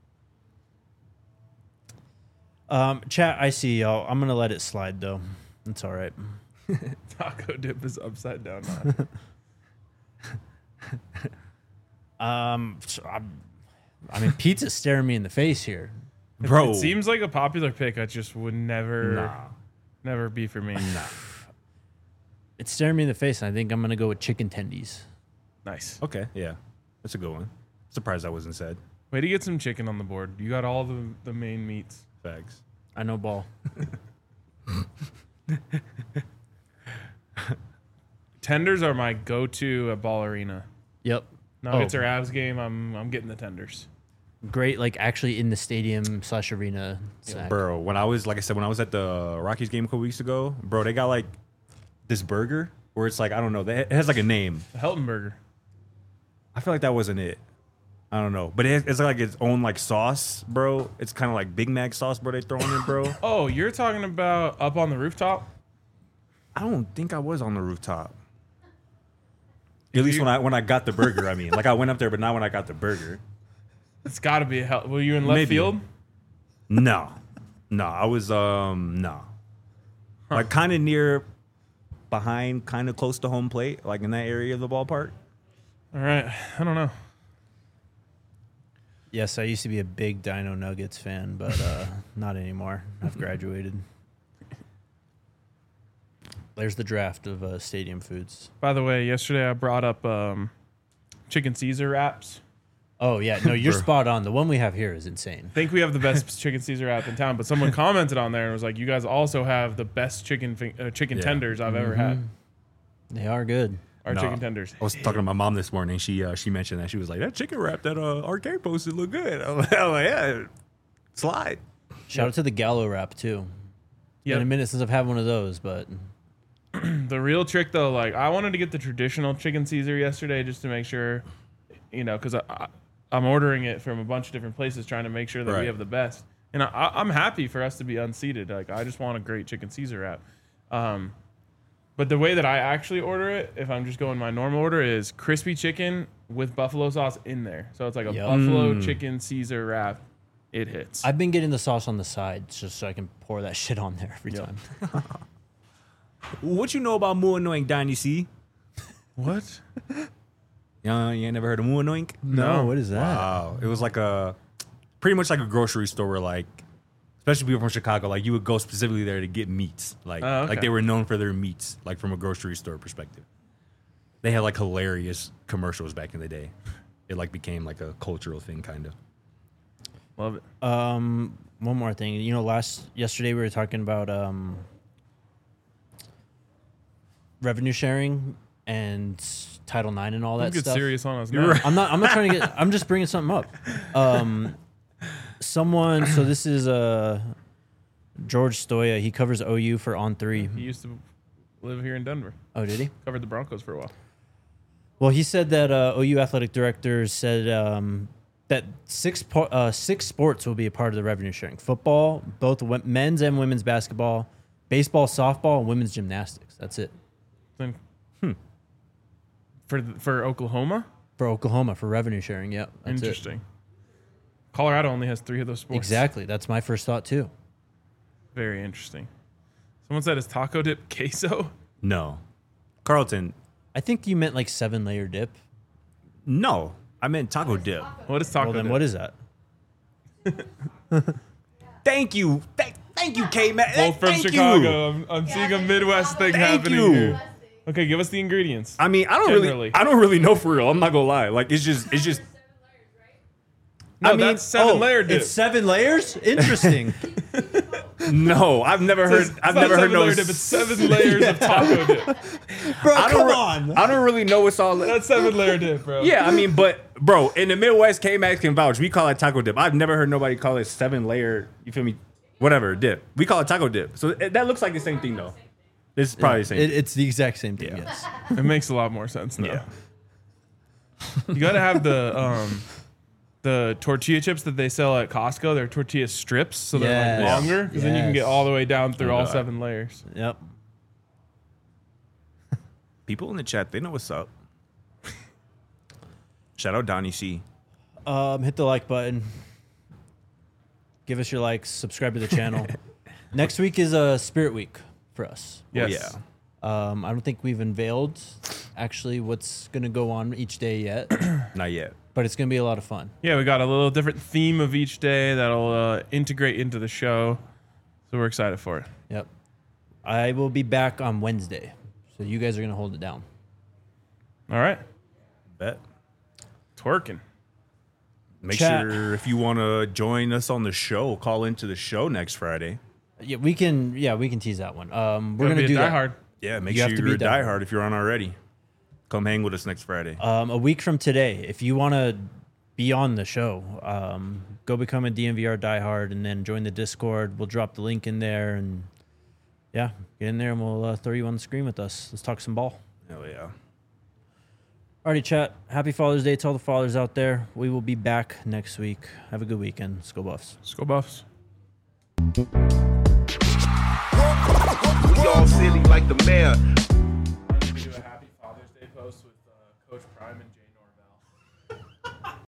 Um, chat, I see y'all. I'm going to let it slide, though. It's all right. Taco dip is upside down. Um, so I'm, I mean, pizza's staring me in the face here. Bro, It seems like a popular pick. I just would never, nah, never be for me. nah. It's staring me in the face, and I think I'm going to go with chicken tendies. Nice. Okay, yeah, that's a good one. Surprised that wasn't said. Way to get some chicken on the board. You got all the, the main meats. Facts. I know ball. Tenders are my go-to at Ball Arena. Yep. Nuggets Oh. or Avs game, I'm I'm getting the tenders. Great, like actually in the stadium slash arena snack. Bro, when I was, like I said, when I was at the Rockies game a couple weeks ago, bro, they got like this burger where it's like, I don't know, they- it has like a name. The Helton Burger. I feel like that wasn't it. I don't know, but it, it's like its own like sauce, bro. It's kind of like Big Mac sauce, bro. They throwing in, bro. Oh, you're talking about up on the rooftop? I don't think I was on the rooftop. At least when I when I got the burger, I mean, like I went up there, but not when I got the burger. It's got to be a hell. Were you in left Maybe. field? No, no, I was um no, huh. like kind of near, behind, kind of close to home plate, like in that area of the ballpark. All right, I don't know. Yes, I used to be a big Dino Nuggets fan, but uh, not anymore. I've graduated. There's the draft of uh, Stadium Foods. By the way, yesterday I brought up um, chicken Caesar wraps. Oh, yeah. No, you're spot on. The one we have here is insane. I think we have the best chicken Caesar wrap in town, but someone commented on there and was like, you guys also have the best chicken fi- uh, chicken Yeah. tenders I've mm-hmm. ever had. They are good. Our No. chicken tenders. I was talking to my mom this morning. She uh, she mentioned that. She was like, that chicken wrap that uh, Arcade posted look good. I'm like, I'm like, yeah, slide. Shout out to the Gallo wrap, too. Yep. Been a minute since I've had one of those, but The real trick, though, like I wanted to get the traditional chicken Caesar yesterday just to make sure, you know, because I, I, I'm ordering it from a bunch of different places trying to make sure that Right. we have the best. And I, I'm happy for us to be unseated. Like I just want a great chicken Caesar wrap. Um, but the way that I actually order it, if I'm just going my normal order, is crispy chicken with buffalo sauce in there. So it's like a Yep. buffalo Mm. chicken Caesar wrap. It hits. I've been getting the sauce on the side just so I can pour that shit on there every Yep. time. What you know about Muanoink Dynasty? What? Yeah, you ain't never heard of Muanoink? No. What is that? Wow, it was like a pretty much like a grocery store where like, especially people from Chicago, like you would go specifically there to get meats. Like, Oh, okay. like they were known for their meats, like from a grocery store perspective. They had like hilarious commercials back in the day. It like became like a cultural thing, kind of. Love it. Um, one more thing. You know, last yesterday we were talking about um, revenue sharing and Title nine and all that Don't get stuff. serious on us now. I'm not. I'm not trying to get. I'm just bringing something up. Um, someone. So this is uh, George Stoya. He covers O U for On Three. He used to live here in Denver. Oh, did he? Covered the Broncos for a while. Well, he said that uh, O U athletic directors said um, that six po- uh, six sports will be a part of the revenue sharing: football, both w- men's and women's basketball, baseball, softball, and women's gymnastics. That's it Then, hmm. For th- for Oklahoma, for Oklahoma for revenue sharing. Yep, that's it. interesting. Colorado only has three of those sports. Exactly. That's my first thought too. Very interesting. Someone said, "Is taco dip queso?" No, Carlton. I think you meant like seven layer dip. No, I meant taco dip. What is taco Well, then dip? what is that? Thank you, thank, thank you, K man. Both from Thank Chicago. You. I'm, I'm seeing a Midwest thing Thank happening you. here. Okay, give us the ingredients. I mean, I don't Generally. really, I don't really know for real. I'm not gonna lie. Like, it's just, it's just. No, I mean, that's seven oh, layer dip. It's seven layers. Interesting. No, I've never It's- heard. it's I've not never heard seven no. layer dip. It's seven layers of taco dip. Bro, I don't come re- on. I don't really know what's all. That's seven layer dip, bro. Yeah, I mean, but bro, in the Midwest, K-Max can vouch. We call it taco dip. I've never heard nobody call it seven layer. You feel me? Whatever dip. We call it taco dip. So it, that looks like the same thing though. This is probably the same. It, it's the exact same thing. Yeah. Yes. It makes a lot more sense now. Yeah. You got to have the um, the tortilla chips that they sell at Costco. They're tortilla strips, so they're Yes. like longer, because then you can get Yes. all the way down through Oh, all God. seven layers. Yep. People in the chat, they know what's up. Shout out Donnie C. Um, hit the like button. Give us your likes. Subscribe to the channel. Next week is a uh, Spirit Week for us. Yes. yeah. Um, I don't think we've unveiled actually what's going to go on each day yet, Not yet. but it's going to be a lot of fun. Yeah, we got a little different theme of each day that'll uh, integrate into the show. So we're excited for it. Yep. I will be back on Wednesday, so you guys are going to hold it down. All right. Bet. Twerking. Make Chat. sure if you want to join us on the show, call into the show next Friday. Yeah, we can. Yeah, we can tease that one. Um, we're Gotta going to be a do that. diehard. Yeah, make You sure have to you're a be diehard. diehard if you're on already. Come hang with us next Friday. Um, a week from today, if you want to be on the show, um, go become a D M V R diehard and then join the Discord. We'll drop the link in there and yeah, get in there and we'll uh, throw you on the screen with us. Let's talk some ball. Hell yeah. Alrighty, chat. Happy Father's Day to all the fathers out there. We will be back next week. Have a good weekend. Let's go Buffs. Let's go Buffs. Y'all silly like the mayor. I'm going to do a happy Father's Day post with uh, Coach Prime and